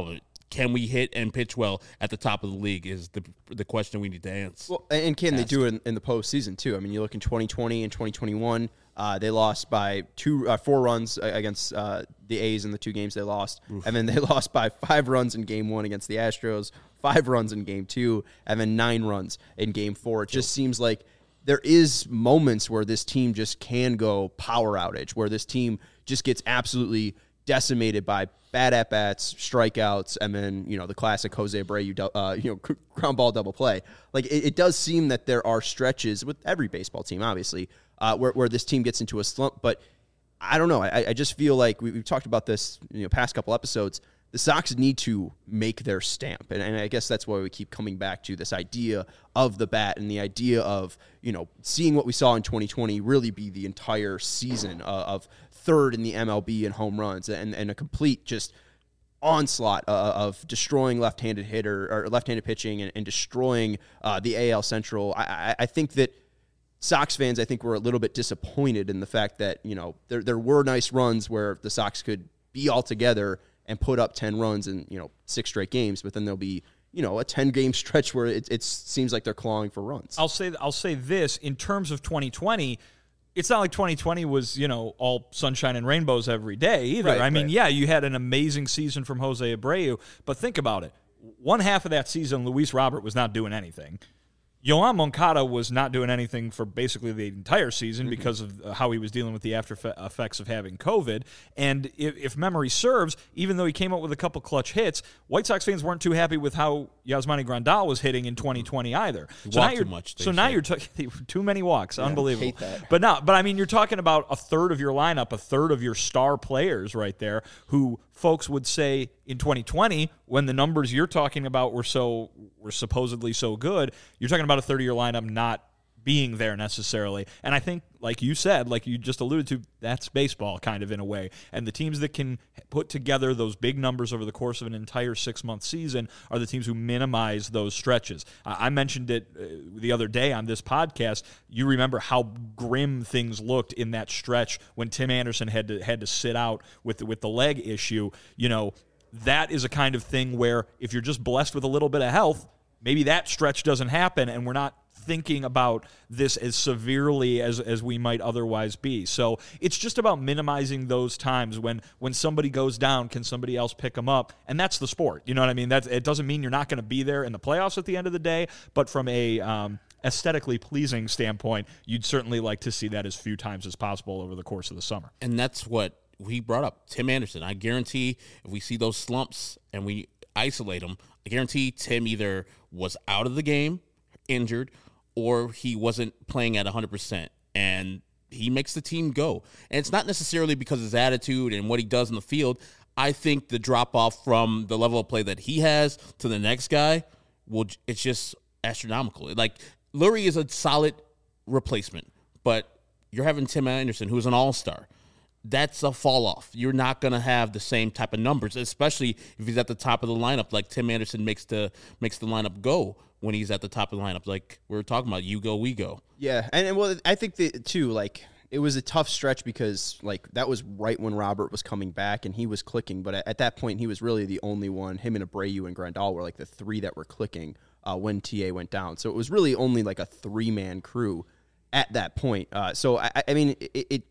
B: can we hit and pitch well at the top of the league is the the question we need to answer.
A: Well, and can they do it in, in the postseason too? I mean, you look in twenty twenty and twenty twenty-one, uh, they lost by two, uh, four runs against uh, the A's in the two games they lost, Oof. and then they lost by five runs in Game One against the Astros, five runs in Game Two, and then nine runs in Game Four. It just seems like there is moments where this team just can go power outage, where this team just gets absolutely decimated by bad at-bats, strikeouts, and then, you know, the classic Jose Abreu, uh, you know, ground ball double play. Like, it, it does seem that there are stretches with every baseball team, obviously, uh, where, where this team gets into a slump. But I don't know. I, I just feel like we, we've talked about this, you know, past couple episodes. The Sox need to make their stamp. And, and I guess that's why we keep coming back to this idea of the bat and the idea of, you know, seeing what we saw in twenty twenty really be the entire season uh, of third in the M L B in home runs and, and a complete just onslaught uh, of destroying left-handed hitter or left-handed pitching and, and destroying uh, the A L Central. I, I, I think that Sox fans, I think, were a little bit disappointed in the fact that, you know, there there were nice runs where the Sox could be all together and put up ten runs in, you know, six straight games, but then there'll be, you know, a ten-game stretch where it, it seems like they're clawing for runs.
C: I'll say I'll say this, in terms of twenty twenty, it's not like twenty twenty was, you know, all sunshine and rainbows every day either.
A: Right,
C: I mean,
A: right.
C: yeah, you had an amazing season from Jose Abreu, but think about it. One half of that season, Luis Robert was not doing anything. Yoan Moncada was not doing anything for basically the entire season mm-hmm. because of how he was dealing with the after effects of having COVID. And if, if memory serves, even though he came up with a couple clutch hits, White Sox fans weren't too happy with how Yasmani Grandal was hitting in twenty twenty either.
B: He
C: so
B: walked
C: now you're,
B: too much.
C: So now you're talking too many walks.
A: Yeah,
C: Unbelievable.
A: hate that.
C: But no, but I mean, you're talking about a third of your lineup, a third of your star players right there, who folks would say in twenty twenty, when the numbers you're talking about were so were supposedly so good, you're talking about a third of your lineup not being there necessarily. And I think, like you said, like you just alluded to, that's baseball kind of in a way. And the teams that can put together those big numbers over the course of an entire six-month season are the teams who minimize those stretches. Uh, I mentioned it uh, the other day on this podcast. You remember how grim things looked in that stretch when Tim Anderson had to had to sit out with the, with the leg issue. You know, that is a kind of thing where if you're just blessed with a little bit of health, maybe that stretch doesn't happen, and we're not thinking about this as severely as, as we might otherwise be. So it's just about minimizing those times when when somebody goes down, can somebody else pick them up? And that's the sport. You know what I mean? That's, it doesn't mean you're not going to be there in the playoffs at the end of the day, but from a um, aesthetically pleasing standpoint, you'd certainly like to see that as few times as possible over the course of the summer.
B: And that's what we brought up. Tim Anderson. I guarantee if we see those slumps and we isolate them, I guarantee Tim either was out of the game, injured, or he wasn't playing at one hundred percent, and he makes the team go. And it's not necessarily because of his attitude and what he does in the field. I think the drop-off from the level of play that he has to the next guy, will it's just astronomical. Like, Lurie is a solid replacement, but you're having Tim Anderson, who's an all-star. That's a fall-off. You're not going to have the same type of numbers, especially if he's at the top of the lineup, like Tim Anderson makes the makes the lineup go when he's at the top of the lineup. Like we were talking about, you go, we go.
A: Yeah, and, and well, I think that, too, like, it was a tough stretch because, like, that was right when Robert was coming back and he was clicking, but at, at that point, he was really the only one. Him and Abreu and Grandal were, like, the three that were clicking uh, when T A went down. So it was really only, like, a three-man crew at that point. Uh, so, I, I mean, it, it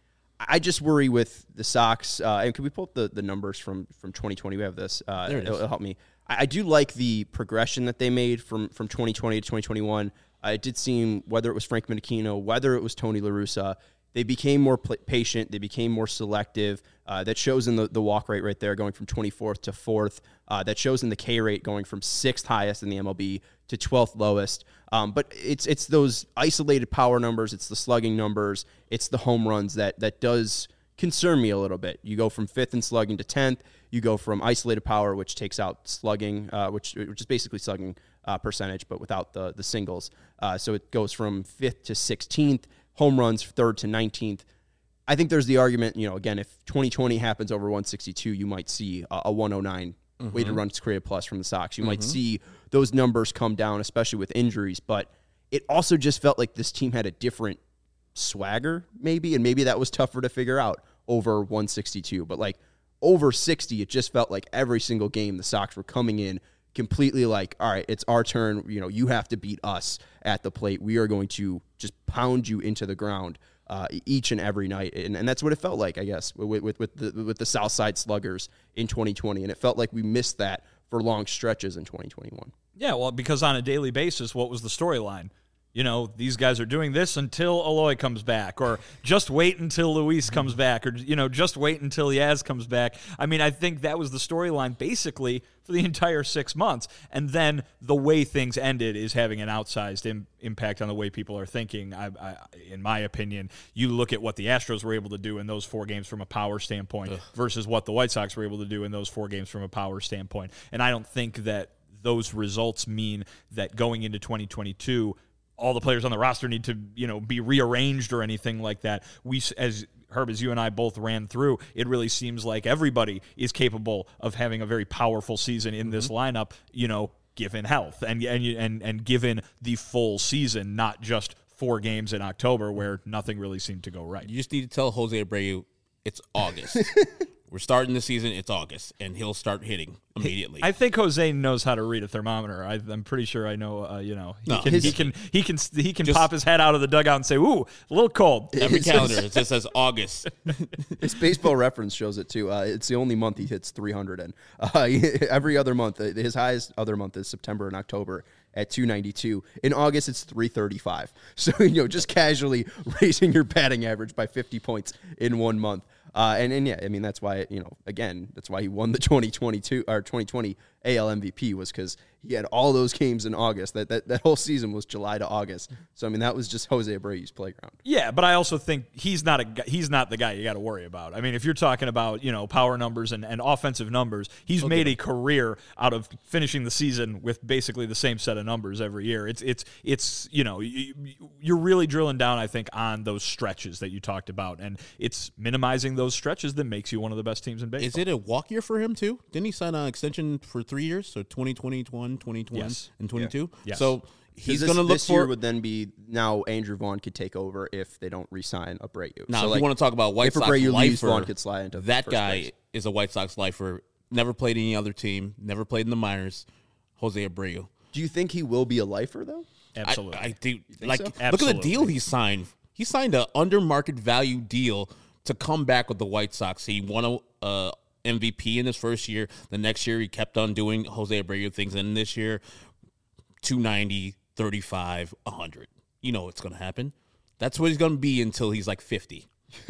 A: I just worry with the Sox. Uh, and can we pull up the, the numbers from, from twenty twenty? We have this. Uh,
B: there it
A: it'll,
B: is.
A: it'll help me. I, I do like the progression that they made from, from twenty twenty to twenty twenty-one. Uh, it did seem, whether it was Frank Menechino, whether it was Tony La Russa, they became more pl- patient. They became more selective. Uh, that shows in the, the walk rate right there, going from twenty-fourth to fourth. Uh, that shows in the K rate, going from sixth highest in the M L B to twelfth lowest. Um, but it's it's those isolated power numbers. It's the slugging numbers. It's the home runs that that does concern me a little bit. You go from fifth in slugging to tenth. You go from isolated power, which takes out slugging, uh, which which is basically slugging uh, percentage, but without the the singles. Uh, so it goes from fifth to sixteenth. Home runs third to nineteenth. I think there's the argument, you know, again, if twenty twenty happens over one sixty-two, you might see a, a one oh nine mm-hmm. weighted runs created plus from the Sox. You mm-hmm. might see those numbers come down, especially with injuries. But it also just felt like this team had a different swagger, maybe, and maybe that was tougher to figure out over one sixty-two. But, like, over sixty, it just felt like every single game the Sox were coming in completely like, all right, it's our turn. You know, you have to beat us at the plate. We are going to just pound you into the ground uh, each and every night. And, and that's what it felt like, I guess, with, with, with, the, with the Southside Sluggers in twenty twenty. And it felt like we missed that for long stretches in twenty twenty-one.
C: Yeah, well, because on a daily basis, what was the storyline? You know, these guys are doing this until Eloy comes back, or just wait until Luis comes back, or, you know, just wait until Yaz comes back. I mean, I think that was the storyline basically for the entire six months. And then the way things ended is having an outsized im- impact on the way people are thinking. I, I, in my opinion, you look at what the Astros were able to do in those four games from a power standpoint Ugh. versus what the White Sox were able to do in those four games from a power standpoint. And I don't think that those results mean that going into twenty twenty-two, all the players on the roster need to, you know, be rearranged or anything like that. We, as Herb, as you and I both ran through, it really seems like everybody is capable of having a very powerful season in this mm-hmm. lineup, you know, given health and, and, and, and given the full season, not just four games in October where nothing really seemed to go right.
B: You just need to tell Jose Abreu it's August. We're starting the season. It's August, and he'll start hitting immediately.
C: I think Jose knows how to read a thermometer. I, I'm pretty sure I know. Uh, you know, he,
B: no,
C: can,
B: his,
C: he can he can he can pop his head out of the dugout and say, "Ooh, a little cold."
B: Every calendar it just says August.
A: His Baseball Reference shows it too. Uh, it's the only month he hits three hundred in. Uh, every other month, uh, his highest other month is September and October at two ninety-two. In August, it's three thirty-five. So, you know, just casually raising your batting average by fifty points in one month. Uh, and, and yeah, I mean, that's why, you know, again, that's why he won the twenty twenty-two or twenty twenty A L M V P, was because he had all those games in August. That, that that whole season was July to August. So, I mean, that was just Jose Abreu's playground.
C: Yeah, but I also think he's not a he's not the guy you got to worry about. I mean, if you're talking about, you know, power numbers and, and offensive numbers, he's okay. made a career out of finishing the season with basically the same set of numbers every year. It's it's it's you know, you're really drilling down, I think, on those stretches that you talked about, and it's minimizing those stretches that makes you one of the best teams in baseball.
B: Is it a walk year for him too? Didn't he sign an extension for three years? So twenty twenty-one, twenty twenty,
C: yes.
B: and twenty-two?
C: Yeah. Yes.
B: So he's
A: this,
B: going to look
A: this
B: for...
A: This year would then be now Andrew Vaughn could take over if they don't re-sign Abreu.
B: Now,
A: so
B: if
A: like,
B: you want to talk about White
A: if
B: Sox
A: Abreu
B: lifer,
A: leaves, Vaughn could slide into
B: that
A: first
B: guy
A: place.
B: is a White Sox lifer. Never played any other team. Never played in the minors. Jose Abreu.
A: Do you think he will be a lifer, though?
C: Absolutely.
B: I, I do. Like,
A: so?
B: look
C: Absolutely.
B: at the deal he signed. He signed an under market value deal to come back with the White Sox. He won a uh, M V P in his first year. The next year, he kept on doing Jose Abreu things. And this year, two ninety, thirty-five, one hundred. You know what's going to happen. That's what he's going to be until he's like fifty.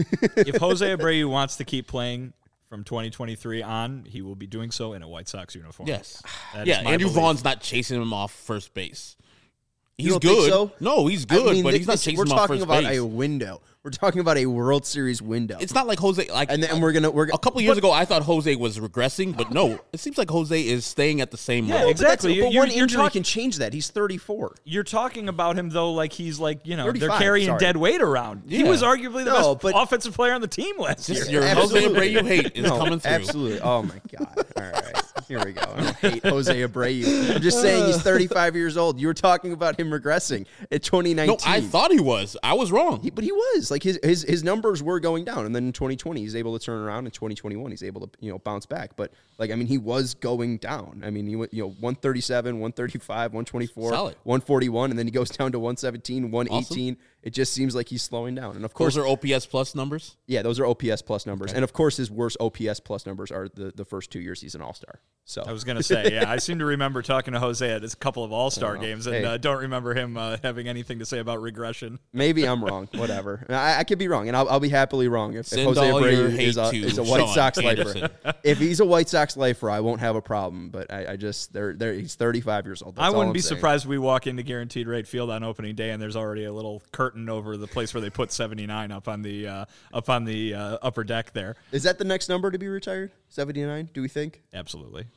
C: If Jose Abreu wants to keep playing from twenty twenty-three on, he will be doing so in a White Sox uniform.
B: Yes.
C: That
B: yeah,
C: is my
B: Andrew
C: belief.
B: Vaughn's not chasing him off first base. He's
A: You don't
B: good.
A: think so?
B: No, he's good,
A: I mean,
B: but
A: th-
B: he's not
A: this-
B: chasing
A: We're
B: him off
A: talking
B: first
A: about
B: base.
A: a window. We're talking about a World Series window.
B: It's not like Jose. Like,
A: and then and we're gonna we're
B: a couple years ago, I thought Jose was regressing, but no, it seems like Jose is staying at the same
C: Yeah,
B: level.
C: exactly.
A: But, that's, but
C: You're-
A: one
C: you're
A: injury
C: talk-
A: can change that. He's thirty-four.
C: You're talking about him, though, like he's like, you know, they're
A: thirty-five,
C: carrying
A: sorry.
C: dead weight around. He
B: Yeah.
C: was arguably the
A: No,
C: best
A: but-
C: offensive player on the team last year.
B: Just your Jose
A: Absolutely.
B: Abreu hate is
A: No,
B: coming through.
A: Absolutely. Oh my God. All right. Here we go. I don't hate Jose Abreu. I'm just saying he's thirty-five years old. You were talking about him regressing at twenty nineteen.
B: No, I thought he was. I was wrong.
A: He, but he was like his, his his numbers were going down, and then in twenty twenty he's able to turn around. In twenty twenty-one he's able to you know bounce back. But like I mean he was going down. I mean he went you know one thirty-seven, one thirty-five, one twenty-four,
B: Solid.
A: one forty-one, and then he goes down to one seventeen, one eighteen. Awesome. It just seems like he's slowing down. And of course,
B: Those are O P S plus numbers.
A: yeah, those are O P S plus numbers.
B: Okay.
A: And of course his worst O P S plus numbers are the, the first two years he's an All-Star. So
C: I was going to say, yeah, I seem to remember talking to Jose at a couple of All-Star
A: Oh,
C: games, and
A: hey.
C: uh, don't remember him uh, having anything to say about regression.
A: maybe I'm wrong. Whatever. I, I could be wrong, and I'll, I'll be happily wrong if, if
B: Send
A: Jose
B: all your
A: Abreu
B: hate
A: is a,
B: to
A: is a White
B: Sean
A: Sox lifer.
B: Anderson.
A: If he's a White Sox lifer, I won't have a problem. But I, I just they're, they're, he's thirty-five years old. That's
C: I
A: all
C: wouldn't
A: I'm
C: be
A: saying.
C: surprised if we walk into Guaranteed Rate Field on opening day, and there's already a little curtain over the place where they put seventy-nine up on the uh, up on the uh, upper deck there.
A: Is that the next number to be retired? seventy-nine, do we think?
C: Absolutely.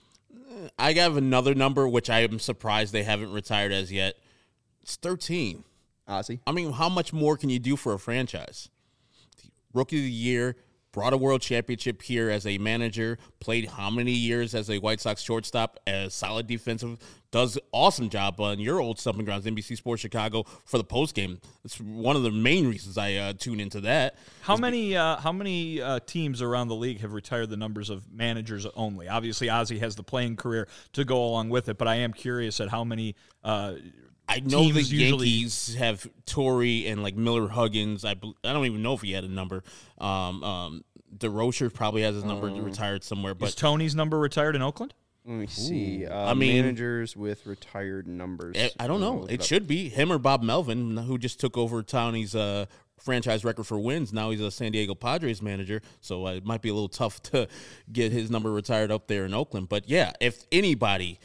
B: I have another number which I am surprised they haven't retired as yet. It's thirteen.
A: Ozzy?
B: I mean, how much more can you do for a franchise? Rookie of the year, brought a world championship here as a manager, played how many years as a White Sox shortstop, as solid defensive, does awesome job on your old Stumping Grounds, N B C Sports Chicago, for the postgame. It's one of the main reasons I uh, tune into that.
C: How many uh, how many uh, teams around the league have retired the numbers of managers only? Obviously, Ozzie has the playing career to go along with it, but I am curious at how many uh,
B: I know the
C: teams usually
B: Yankees have Torrey and like Miller Huggins. I bel- I don't even know if he had a number. Um, um, DeRocher probably has his number
A: Um,
B: retired somewhere.
C: Is
B: But
C: Tony's number retired in Oakland?
A: Let me see. Uh,
B: I mean-
A: managers with retired numbers.
B: I, I don't
A: I'm
B: know.
A: gonna look
B: It
A: up.
B: should be him or Bob Melvin, who just took over Tony's uh, franchise record for wins. Now he's a San Diego Padres manager, so uh, it might be a little tough to get his number retired up there in Oakland. But yeah, if anybody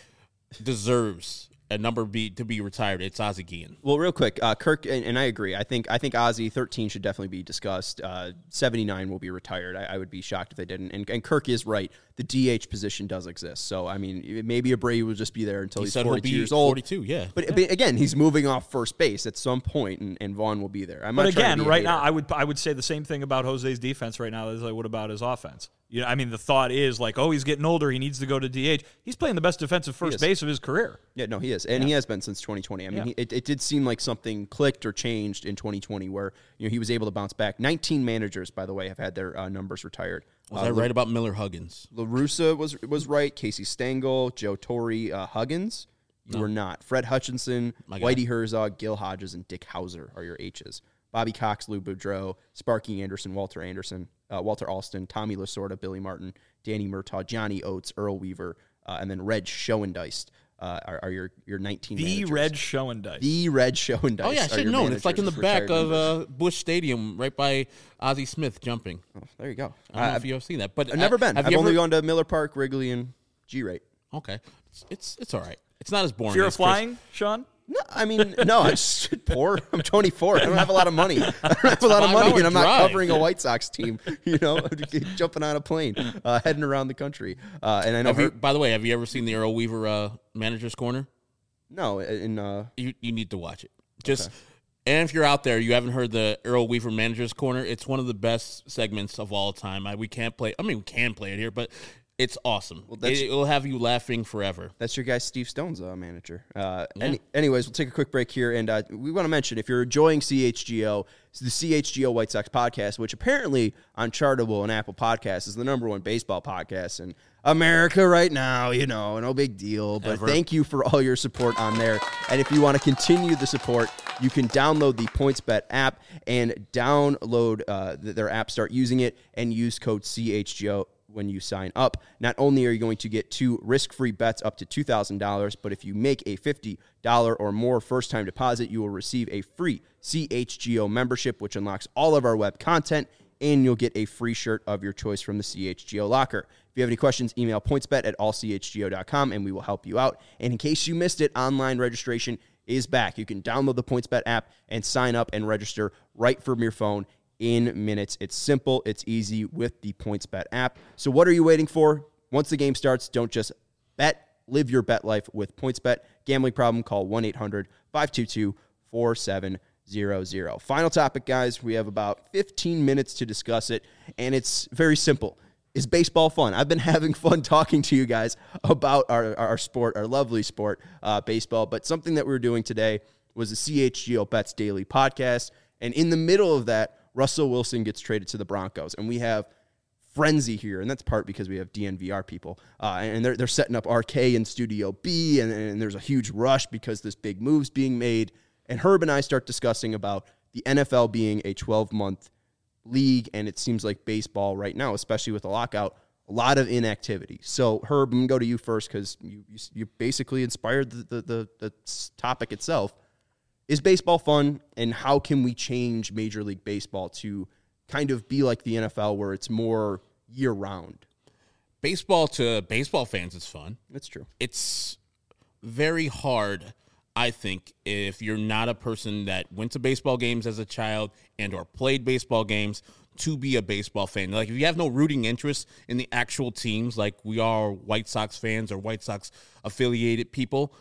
B: deserves a number be to be retired, it's Ozzie Guillen.
A: Well, real quick, uh, Kirk, and, and I agree. I think I think Ozzie thirteen should definitely be discussed. Uh, seventy-nine will be retired. I, I would be shocked if they didn't. And, and Kirk is right. The D H position does exist. So I mean, maybe Abreu will just be there until
B: He
A: he's
B: said he'll
A: forty-two
B: be
A: years old.
B: forty-two, yeah.
A: But, but again, he's moving off first base at some point, and, and Vaughn will be there. I'm
C: But
A: not trying
C: again,
A: to be a
C: right
A: hater.
C: now, I would I would say the same thing about Jose's defense right now as I would about his offense. You know, I mean, the thought is like, oh, he's getting older, he needs to go to D H. He's playing the best defensive first
A: is.
C: base of his career.
A: Yeah, no, he is, and he has been since twenty twenty. I mean,
C: Yeah.
A: he, it, it did seem like something clicked or changed in twenty twenty, where you know he was able to bounce back. nineteen managers, by the way, have had their uh, numbers retired.
B: Was
A: uh,
B: I right about Miller Huggins?
A: La Russa was was right. Casey Stengel, Joe Torre, uh, Huggins. You were not. Fred Hutchinson,
B: My guy.
A: Whitey Herzog, Gil Hodges, and Dick Hauser are your H's. Bobby Cox, Lou Boudreau, Sparky Anderson, Walter Anderson, uh, Walter Alston, Tommy Lasorda, Billy Martin, Danny Murtaugh, Johnny Oates, Earl Weaver, uh, and then Reg Schoendeist uh, are, are your your nineteen
C: The
A: managers.
C: Red Schoendice.
A: The Red Schoendeist.
B: Oh, yeah, I
A: are
B: should have
A: your
B: known. It's like in the
A: managers,
B: back
A: retired
B: of
A: members.
B: uh, Busch Stadium, right by Ozzie Smith jumping.
A: Oh, there you go.
B: I don't know
A: Uh,
B: if you've seen that. But
A: I've never
B: uh,
A: been.
B: Have
A: I've
B: you
A: only
B: ever-
A: gone to Miller Park, Wrigley, and G-Rate.
B: Okay. It's, it's, it's all right. It's not as boring
C: Fear
B: as
C: of
B: Chris-
C: flying, Sean?
A: No, I mean, no, I'm just poor. I'm twenty-four. I don't have a lot of money. I don't have a lot of
B: Five-hour
A: money, and I'm not
B: drive.
A: covering a White Sox team, you know, jumping on a plane, uh, heading around the country. Uh, and I know,
B: Have you,
A: her,
B: by the way, have you ever seen the Earl Weaver uh, Manager's Corner?
A: no, in, uh,
B: You you need to watch it. Just and if you're out there, you haven't heard the Earl Weaver Manager's Corner. It's one of the best segments of all time. I, we can't play. I mean, we can play it here, but it's awesome.
A: that's-
B: it, will have you laughing forever.
A: that's your guy, Steve Stone's uh, manager. Uh, any, anyways, we'll take a quick break here, and uh, we want to mention, if you're enjoying C H G O, it's the C H G O White Sox podcast, which apparently on Chartable and Apple Podcasts is the number one baseball podcast in America right now, you know, no big deal. But
B: Ever.
A: thank you for all your support on there. And if you want to continue the support, you can download the PointsBet app and download uh, th- their app, start using it, and use code C H G O when you sign up. Not only are you going to get two risk-free bets up to two thousand dollars, but if you make a fifty dollars or more first-time deposit, you will receive a free C H G O membership, which unlocks all of our web content, and you'll get a free shirt of your choice from the C H G O locker. If you have any questions, email pointsbet at all c h g o dot com, and we will help you out. And in case you missed it, online registration is back. You can download the PointsBet app and sign up and register right from your phone in minutes. It's simple, it's easy with the PointsBet app. So what are you waiting for? Once the game starts, don't just bet. Live your bet life with PointsBet. Gambling problem, call one eight hundred five two two four seven zero zero. Final topic, guys. We have about fifteen minutes to discuss it, and it's very simple. Is baseball fun? I've been having fun talking to you guys about our, our sport, our lovely sport, uh, baseball, but something that we were doing today was the C H G O Bets Daily podcast, and in the middle of that, Russell Wilson gets traded to the Broncos, and we have frenzy here, and that's part because we have D N V R people, uh, and they're, they're setting up R K in Studio B, and, and there's a huge rush because this big move's being made, and Herb and I start discussing about the N F L being a twelve-month league, and it seems like baseball right now, especially with the lockout, a lot of inactivity. So, Herb, I'm going to go to you first because you, you you basically inspired the, the, the, the topic itself. Is baseball fun, and how can we change Major League Baseball to kind of be like the N F L where it's more year-round?
B: Baseball to baseball fans is fun.
A: That's true.
B: It's very hard, I think, if you're not a person that went to baseball games as a child and or played baseball games, to be a baseball fan. Like, if you have no rooting interest in the actual teams, like we are White Sox fans or White Sox affiliated people,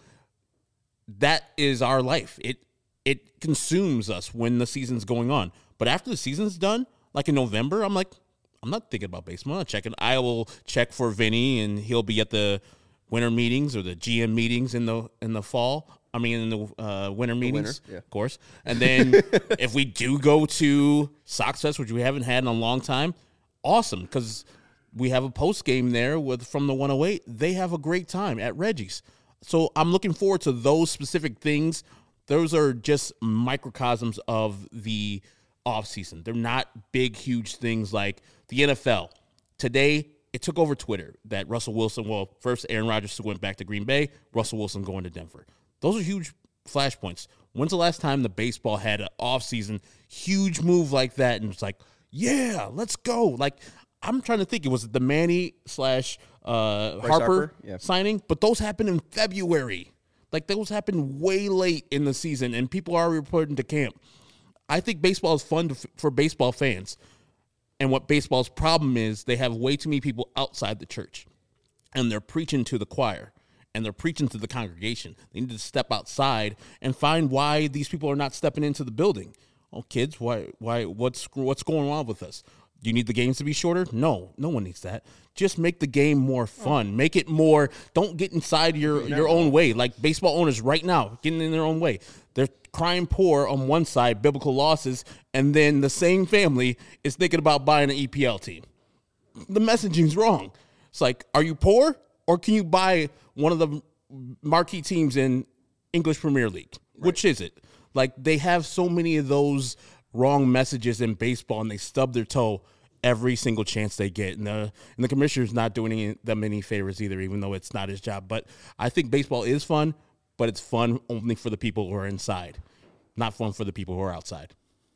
B: that is our life. It it consumes us when the season's going on. But after the season's done, like in November, I'm like, I'm not thinking about baseball. I'm not checking. I will check for Vinny, and he'll be at the winter meetings or the G M meetings in the in the fall. I mean, in the uh, winter meetings,
A: winter, yeah.
B: of course. And then if we do go to Sox Fest, which we haven't had in a long time, awesome, because we have a post game there with from the one oh eight. They have a great time at Reggie's. So I'm looking forward to those specific things. Those are just microcosms of the offseason. They're not big, huge things like the N F L. Today, it took over Twitter that Russell Wilson, well, first Aaron Rodgers went back to Green Bay, Russell Wilson going to Denver. Those are huge flashpoints. When's the last time the baseball had an offseason huge move like that? And it's like, yeah, let's go. Like, I'm trying to think. It was the Manny slash uh, Harper,
A: Harper? Yeah.
B: signing, but those happened in February. Like, those happened way late in the season, and people are reporting to camp. I think baseball is fun to, for baseball fans. And what baseball's problem is, they have way too many people outside the church, and they're preaching to the choir. And they're preaching to the congregation. They need to step outside and find why these people are not stepping into the building. Oh, kids, why, why, what's, what's going on with us? Do you need the games to be shorter? No, no one needs that. Just make the game more fun. Make it more. Don't get inside your, your own way. Like baseball owners right now, getting in their own way. They're crying poor on one side, biblical losses, and then the same family is thinking about buying an E P L team. The messaging's wrong. It's like, are you poor? Or can you buy one of the marquee teams in English Premier League? Right. Which is it? Like, they have so many of those wrong messages in baseball, and they stub their toe every single chance they get. And the, and the commissioner's not doing any, them any favors either, even though it's not his job. But I think baseball is fun, but it's fun only for the people who are inside, not fun for the people who are outside.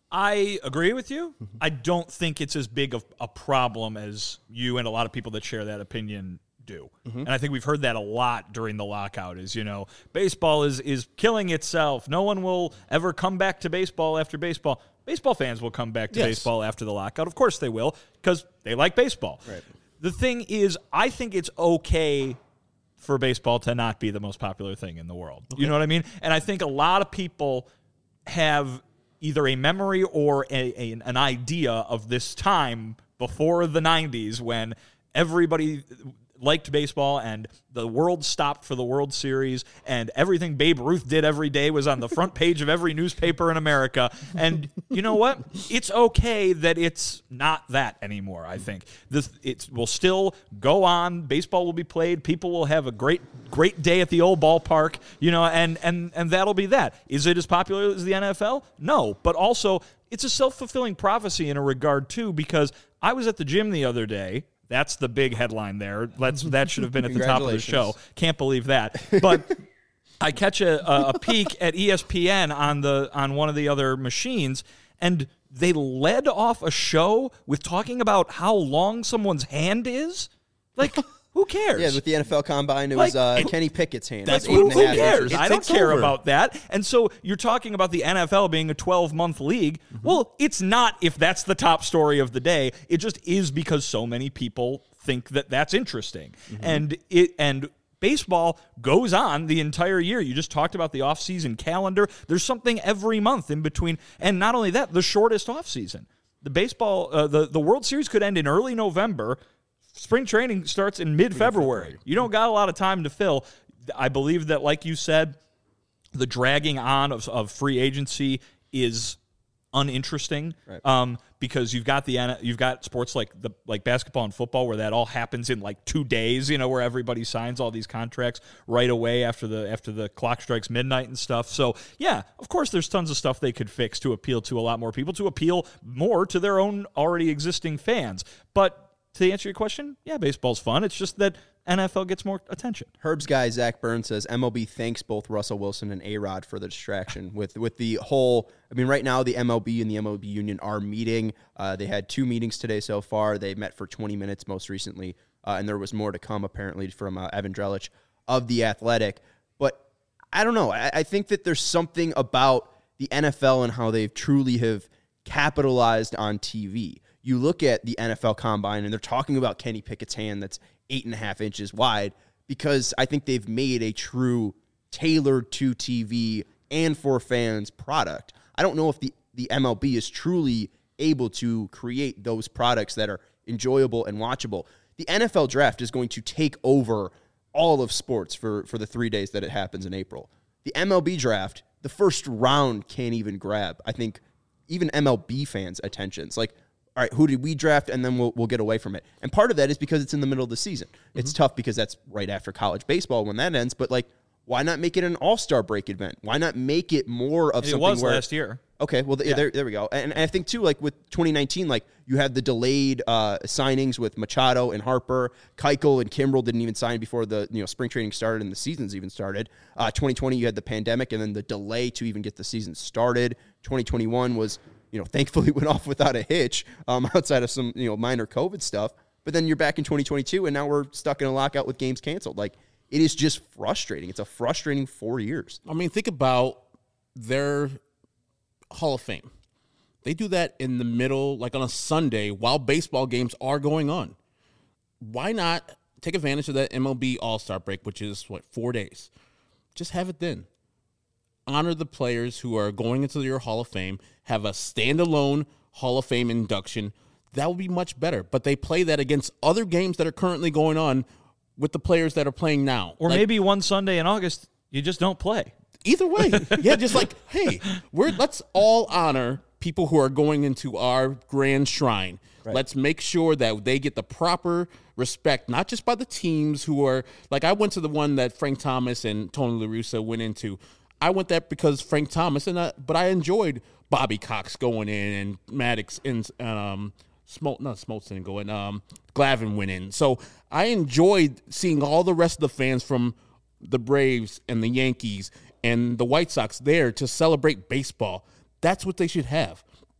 C: I agree with you. I don't think it's as big of a problem as you and a lot of people that share that opinion do. Mm-hmm. And I think we've heard that a lot during the lockout is, you know, baseball is is killing itself. No one will ever come back to baseball after baseball. Baseball fans will come back to
B: yes.
C: baseball after the lockout. Of course they will, because they like baseball.
A: Right.
C: The thing is, I think it's okay for baseball to not be the most popular thing in the world. Okay. You know what I mean? And I think a lot of people have either a memory or a, a, an idea of this time before the nineties when everybody liked baseball and the world stopped for the World Series and everything Babe Ruth did every day was on the front page of every newspaper in America. And you know what? It's okay that it's not that anymore, I think. This it will still go on. Baseball will be played. People will have a great great day at the old ballpark, you know, and and and that'll be that. Is it as popular as the N F L? No, but also it's a self-fulfilling prophecy in a regard too, because I was at the gym the other day. That's the big headline there. Let's, that should have been at the top of the show. Can't believe that. But I catch a, a, a peek at E S P N on the on one of the other machines, and they led off a show with talking about how long someone's hand is. Like, who cares?
A: Yeah, with the N F L Combine, it
C: Like,
A: was uh,
C: it-
A: Kenny Pickett's hand.
C: That's
A: It was eight
C: who,
A: and a
C: who
A: half
C: cares?
A: inches.
C: I don't
B: takes
C: care
B: over.
C: about that. And so you're talking about the N F L being a twelve-month league. Mm-hmm. Well, it's not if that's the top story of the day. It just is because so many people think that that's interesting. Mm-hmm. And it and baseball goes on the entire year. You just talked about the off-season calendar. There's something every month in between. And not only that, the shortest off-season. The baseball, uh, the, the World Series could end in early November. Spring training starts in mid-February. You don't got a lot of time to fill. I believe that, like you said, the dragging on of, of free agency is uninteresting,
A: right.
C: um, because you've got the you've got sports like the like basketball and football where that all happens in like two days. You know, where everybody signs all these contracts right away after the after the clock strikes midnight and stuff. So yeah, of course, there's tons of stuff they could fix to appeal to a lot more people, to appeal more to their own already existing fans, but. To answer your question, yeah, baseball's fun. It's just that N F L gets more attention.
A: Herb's guy, Zach Burns, says M L B thanks both Russell Wilson and A-Rod for the distraction with with the whole, I mean, right now the M L B and the M L B union are meeting. Uh, they had two meetings today so far. They met for twenty minutes most recently, uh, and there was more to come apparently from uh, Evan Drellich of The Athletic. But I don't know. I, I think that there's something about the N F L and how they've truly have capitalized on T V. You look at the N F L Combine, and they're talking about Kenny Pickett's hand that's eight and a half inches wide, because I think they've made a true tailored to T V and for fans product. I don't know if the, the M L B is truly able to create those products that are enjoyable and watchable. The N F L draft is going to take over all of sports for, for the three days that it happens in April. The M L B draft, the first round can't even grab, I think, even M L B fans' attentions. Like, all right, who did we draft? And then we'll we'll get away from it. And part of that is because it's in the middle of the season. Mm-hmm. It's tough because that's right after college baseball when that ends. But, like, why not make it an all-star break event? Why not make it more of
C: it
A: something
C: was
A: where...
C: last year.
A: Okay, well, th-
C: Yeah.
A: there, there we go. And, and I think, too, like with twenty nineteen, like you had the delayed uh, signings with Machado and Harper. Keuchel and Kimbrel didn't even sign before the you know spring training started and the seasons even started. Uh, twenty twenty, you had the pandemic and then the delay to even get the season started. twenty twenty-one was, you know, thankfully went off without a hitch um, outside of some, you know, minor COVID stuff. But then you're back in twenty twenty-two and now we're stuck in a lockout with games canceled. Like, it is just frustrating. It's a frustrating four years.
B: I mean, think about their Hall of Fame. They do that in the middle, like on a Sunday, while baseball games are going on. Why not take advantage of that M L B All-Star break, which is, what, four days? Just have it then. Honor the players who are going into your Hall of Fame, have a standalone Hall of Fame induction. That would be much better. But they play that against other games that are currently going on with the players that are playing now.
C: Or
B: Like,
C: maybe one Sunday in August, you just don't play.
B: either way. Yeah, just like, hey, we're let's all honor people who are going into our grand shrine. Right. Let's make sure that they get the proper respect, not just by the teams who are, like I went to the one that Frank Thomas and Tony La Russa went into. I went there because Frank Thomas, and I, but I enjoyed Bobby Cox going in and Maddox and um, Smol- not Smoltz didn't go in, um, Glavine went in. So I enjoyed seeing all the rest of the fans from the Braves and the Yankees and the White Sox there to celebrate baseball. That's what they should have.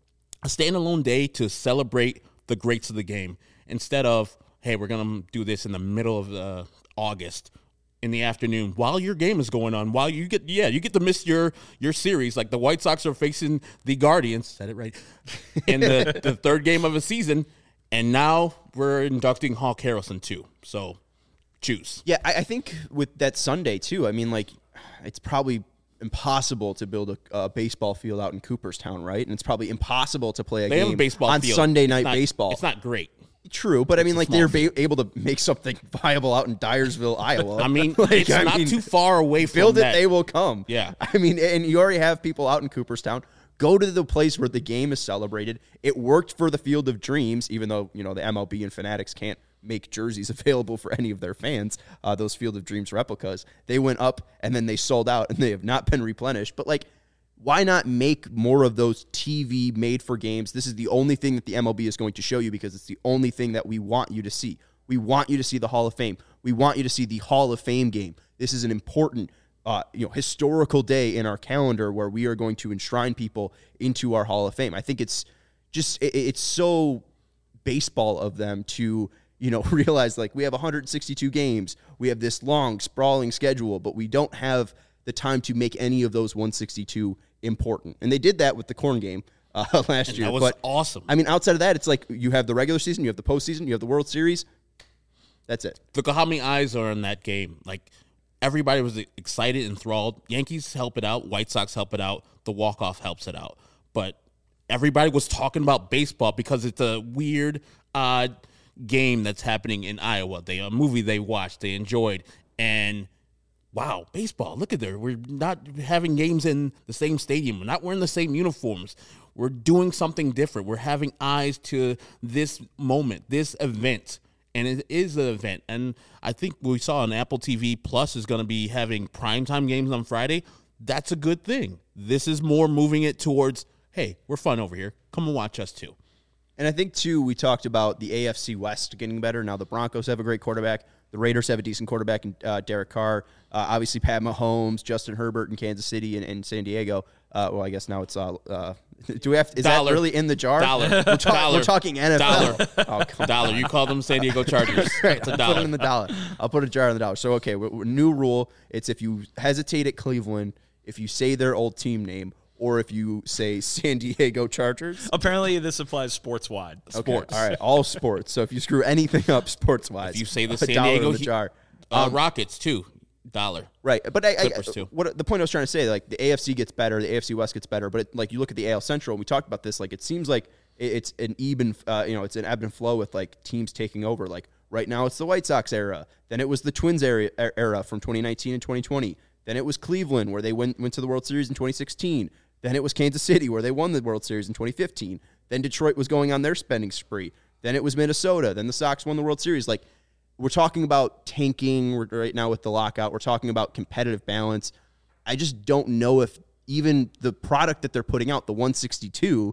B: A standalone day to celebrate the greats of the game instead of, hey, we're going to do this in the middle of uh, August in the afternoon while your game is going on, while you get, yeah, you get to miss your, your series. Like the White Sox are facing the Guardians, said it right, in the, the third game of a season, and now we're inducting Hawk Harrelson too. So choose.
A: Yeah, I, I think with that Sunday, too, I mean, like, it's probably impossible to build a, a baseball field out in Cooperstown, right? And it's probably impossible to play a
B: They have
A: game
B: a baseball
A: on
B: field.
A: Sunday
B: It's
A: night
B: not-
A: baseball.
B: It's not great.
A: True, but I mean,
B: a
A: like,
B: small
A: they're
B: field.
A: ba- able to make something viable out in Dyersville, Iowa.
B: I mean,
A: Like,
B: it's
A: I
B: not
A: mean,
B: too far away from
A: build it,
B: that.
A: they will come.
B: Yeah.
A: I mean, and you already have people out in Cooperstown. Go to the place where the game is celebrated. It worked for the Field of Dreams, even though, you know, the M L B and Fanatics can't make jerseys available for any of their fans, uh, those Field of Dreams replicas. They went up and then they sold out and they have not been replenished. But, like, why not make more of those T V made for games? This is the only thing that the M L B is going to show you because it's the only thing that we want you to see. We want you to see the Hall of Fame. We want you to see the Hall of Fame game. This is an important Uh, you know, historical day in our calendar where we are going to enshrine people into our Hall of Fame. I think it's just, it, it's so baseball of them to, you know, realize like we have one hundred sixty-two games. We have this long, sprawling schedule, but we don't have the time to make any of those one sixty-two important. And they did that with the corn game uh, last
B: And
A: year.
B: that was
A: but,
B: awesome.
A: I mean, outside of that, it's like you have the regular season, you have the postseason, you have the World Series. That's it.
B: Look at how many eyes are in that game. Like, everybody was excited, enthralled. Yankees help it out. White Sox help it out. The walk-off helps it out. But everybody was talking about baseball because it's a weird, odd game that's happening in Iowa. They a movie they watched, they enjoyed, and wow, baseball. Look at there. We're not having games in the same stadium. We're not wearing the same uniforms. We're doing something different. We're having eyes to this moment, this event. And it is an event. And I think we saw on Apple T V Plus is going to be having primetime games on Friday. That's a good thing. This is more moving it towards, hey, we're fun over here. Come and watch us too.
A: And I think, too, we talked about the A F C West getting better. Now the Broncos have a great quarterback. The Raiders have a decent quarterback in uh, Derek Carr. Uh, obviously, Pat Mahomes, Justin Herbert in Kansas City and, and San Diego. Uh, well, I guess now it's uh, uh, do we have? Is
B: Dollar.
A: that really in the jar?
B: Dollar.
A: We're, talk,
B: Dollar.
A: we're talking N F L.
B: Dollar.
A: Oh, come
B: Dollar. You call them San Diego Chargers.
A: Right,
B: It's a
A: I'll
B: dollar.
A: put it in the dollar. I'll put a jar in the dollar. So, okay, w- w- new rule. It's if you hesitate at Cleveland, if you say their old team name, or if you say San Diego Chargers.
C: Apparently, this applies sports wide.
A: Okay,
B: Sports.
A: all right, all sports. So if you screw anything up sports-wise,
B: If you say the
A: a
B: San
A: dollar
B: Diego
A: in the
B: Heat-
A: jar.
B: Uh,
A: Um,
B: Rockets too. Dollar.
A: Right, but I, I
B: Clippers, too.
A: what the point I was trying to say, like the A F C gets better, the A F C West gets better, but it, like you look at the A L Central, and we talked about this, like it seems like it, it's an even, uh, you know, it's an ebb and flow with like teams taking over. Like right now, it's the White Sox era. Then it was the Twins era, era from twenty nineteen and twenty twenty. Then it was Cleveland, where they went went to the World Series in twenty sixteen. Then it was Kansas City, where they won the World Series in twenty fifteen. Then Detroit was going on their spending spree. Then it was Minnesota. Then the Sox won the World Series. Like, we're talking about tanking right now with the lockout. We're talking about competitive balance. I just don't know if even the product that they're putting out, the one sixty-two,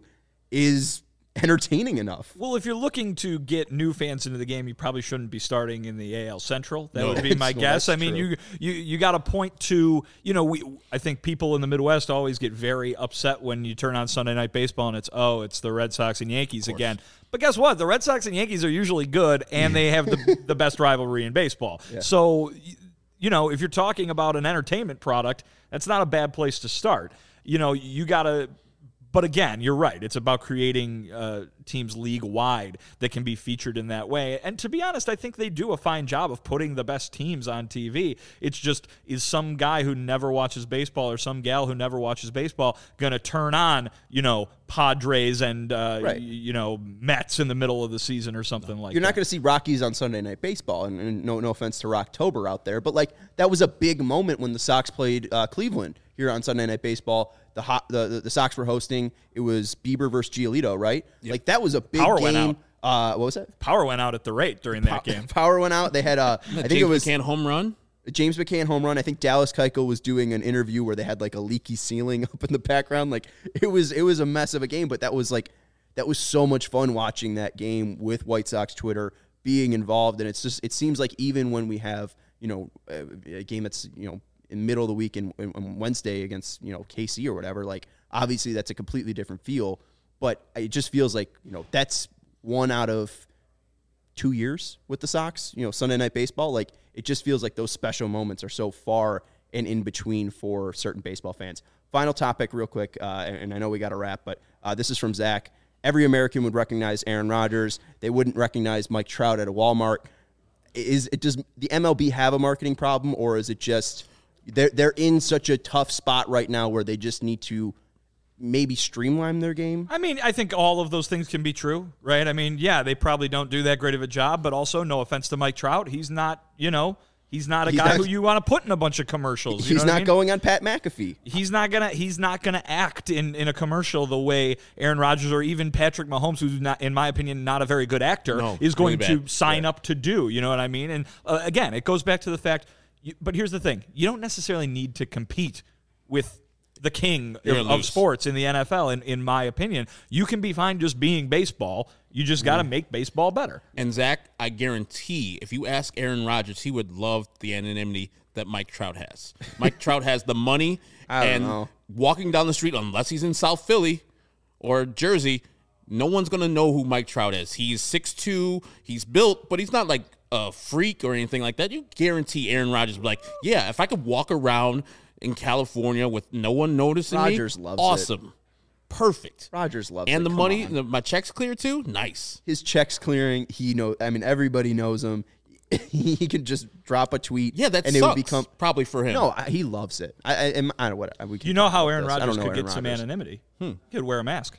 A: is entertaining enough.
C: Well, if you're looking to get new fans into the game, you probably shouldn't be starting in the A L Central. That
A: No,
C: would be my
A: well,
C: guess.
A: that's
C: I mean,
A: true.
C: you you you got to point to, you know, we I think people in the Midwest always get very upset when you turn on Sunday Night Baseball and it's, oh, it's the Red Sox and Yankees again. But guess what? The Red Sox and Yankees are usually good, and they have the the best rivalry in baseball. Yeah. So, you know, if you're talking about an entertainment product, that's not a bad place to start. You know, you got to. But again, you're right. It's about creating uh, teams league-wide that can be featured in that way. And to be honest, I think they do a fine job of putting the best teams on T V. It's just, is some guy who never watches baseball or some gal who never watches baseball going to turn on, you know, Padres and, uh,
A: Right.
C: y- you know, Mets in the middle of the season or something like
A: You're
C: that?
A: not going to see Rockies on Sunday Night Baseball, and, and no no offense to Rocktober out there, but like that was a big moment when the Sox played uh, Cleveland here on Sunday Night Baseball. The, hot, the the the Sox were hosting. It was Bieber versus Giolito, right? Yep. Like that was a big
C: Power
A: game.
C: went out.
A: Uh, what was that?
C: Power went out at the rate during that game.
A: Power went out. They had uh, I think
B: James
A: it was
B: McCann home run.
A: James McCann home run. I think Dallas Keuchel was doing an interview where they had like a leaky ceiling up in the background. Like it was it was a mess of a game, but that was like that was so much fun watching that game with White Sox Twitter being involved. And it's just it seems like even when we have, you know, a, a game that's, you know, in the middle of the week and Wednesday against, you know, K C or whatever, like obviously that's a completely different feel, but it just feels like, you know, that's one out of two years with the Sox, you know, Sunday Night Baseball. Like it just feels like those special moments are so far and in between for certain baseball fans. Final topic real quick, uh, and, and I know we got to wrap, but uh, this is from Zach. Every American would recognize Aaron Rodgers. They wouldn't recognize Mike Trout at a Walmart. Is it, does the M L B have a marketing problem, or is it just they're, they're in such a tough spot right now where they just need to maybe streamline their game?
C: I mean, I think all of those things can be true, right? I mean, yeah, they probably don't do that great of a job, but also, no offense to Mike Trout, he's not, you know, he's not a
A: He's
C: guy
A: not-
C: who you want to put in a bunch of commercials. You
A: He's
C: know what
A: not
C: I mean?
A: going on Pat McAfee.
C: He's not gonna. He's not gonna act in, in a commercial the way Aaron Rodgers or even Patrick Mahomes, who's not, in my opinion, not a very good actor,
B: No,
C: is going
B: really
C: to
B: bad.
C: sign
B: Yeah.
C: up to do. You know what I mean? And uh, again, it goes back to the fact. You, but here's the thing: you don't necessarily need to compete with the king
B: You're
C: of,
B: gonna
C: of
B: lose.
C: sports in the N F L. In in my opinion, you can be fine just being baseball. You just got to make baseball better.
B: And Zach, I guarantee, if you ask Aaron Rodgers, he would love the anonymity that Mike Trout has. Mike Trout has the money,
A: I don't
B: and
A: know.
B: walking down the street, unless he's in South Philly or Jersey, no one's going to know who Mike Trout is. He's six two, he's built, but he's not like a freak or anything like that. You guarantee Aaron Rodgers would be like, yeah, if I could walk around in California with no one noticing
A: Rodgers
B: me,
A: loves it.
B: awesome. Perfect.
A: Rodgers loves
B: And
A: it.
B: the
A: Come
B: money,
A: on.
B: the, my check's clear too? Nice.
A: His checks clearing. He know. I mean, everybody knows him. He can just drop a tweet.
B: Yeah, that
A: and
B: sucks.
A: it would become.
B: probably for him.
A: No, I, he loves it. I, I, am- I don't know what we can
C: You know
A: talk
C: how
A: about
C: Aaron
A: this. I don't
C: Rodgers
A: know
C: could
A: Aaron
C: get some
A: Rodgers.
C: anonymity. He could wear a mask.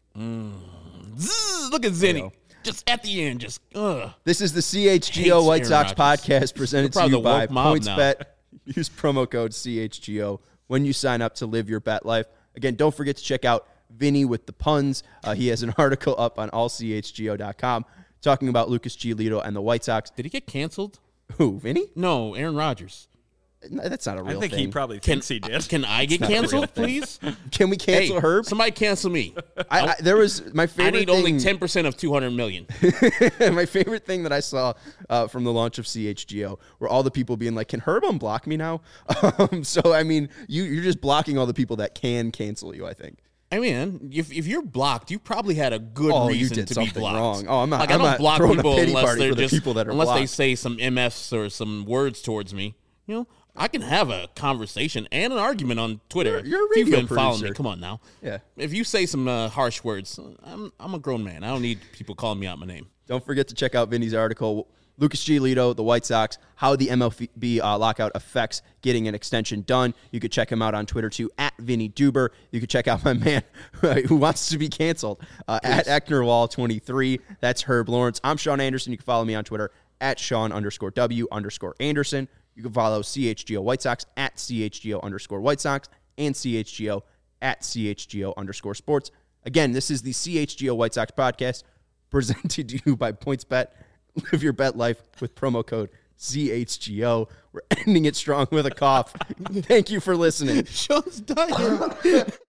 B: Zzz, look at Zenny. Just at the end, just ugh.
A: This is the C H G O
B: Hates
A: White
B: Aaron
A: Sox
B: Rodgers.
A: podcast presented
B: They're
A: to you
B: probably the
A: by
B: woke mob
A: PointsBet. Use promo code C H G O when you sign up to live your bet life. Again, don't forget to check out Vinny with the puns. Uh, he has an article up on all C H G O dot com talking about Lucas Giolito and the White Sox.
B: Did he get canceled?
A: Who, Vinny?
B: No, Aaron Rodgers.
A: No, that's not a real
C: I think
A: thing.
C: he probably
B: Can,
C: thinks he did.
B: Can I get
A: not a real
B: canceled,
A: thing.
B: please?
A: Can we cancel
B: hey,
A: Herb?
B: somebody cancel me.
A: I, I, there was my
B: I
A: favorite
B: need
A: thing.
B: only ten percent of two hundred million.
A: My favorite thing that I saw uh, from the launch of C H G O were all the people being like, "Can Herb unblock me now?" Um, so I mean, you you're just blocking all the people that can cancel you. I think.
B: I mean, if, if you're blocked, you probably had a good
A: Oh, you
B: reason
A: did
B: to
A: something
B: be blocked.
A: wrong. Oh, I'm not-
B: Like,
A: I'm
B: I don't
A: not
B: block
A: throwing a
B: people
A: pity
B: unless
A: party
B: they're
A: for the
B: just
A: people that are
B: unless they
A: blocked.
B: say some M Fs or some words towards me. You know, I can have a conversation and an argument on Twitter.
A: You're- you're a
B: if you've
A: radio
B: been following me,
A: producer.
B: come on now.
A: Yeah.
B: If you say some uh, harsh words, I'm I'm a grown man. I don't need people calling me out my name.
A: Don't forget to check out Vinny's article, Lucas Giolito, the White Sox, how the M L B uh, lockout affects getting an extension done. You could check him out on Twitter too, at Vinny Duber. You can check out my man who wants to be canceled uh, at Ecknerwall twenty-three. That's Herb Lawrence. I'm Sean Anderson. You can follow me on Twitter at Sean underscore W underscore Anderson. You can follow C H G O White Sox at C H G O underscore White Sox and C H G O at C H G O underscore sports. Again, this is the C H G O White Sox podcast presented to you by PointsBet. Live your bet life with promo code C H G O. We're ending it strong with a cough. Thank you for listening.
B: Sean's dying.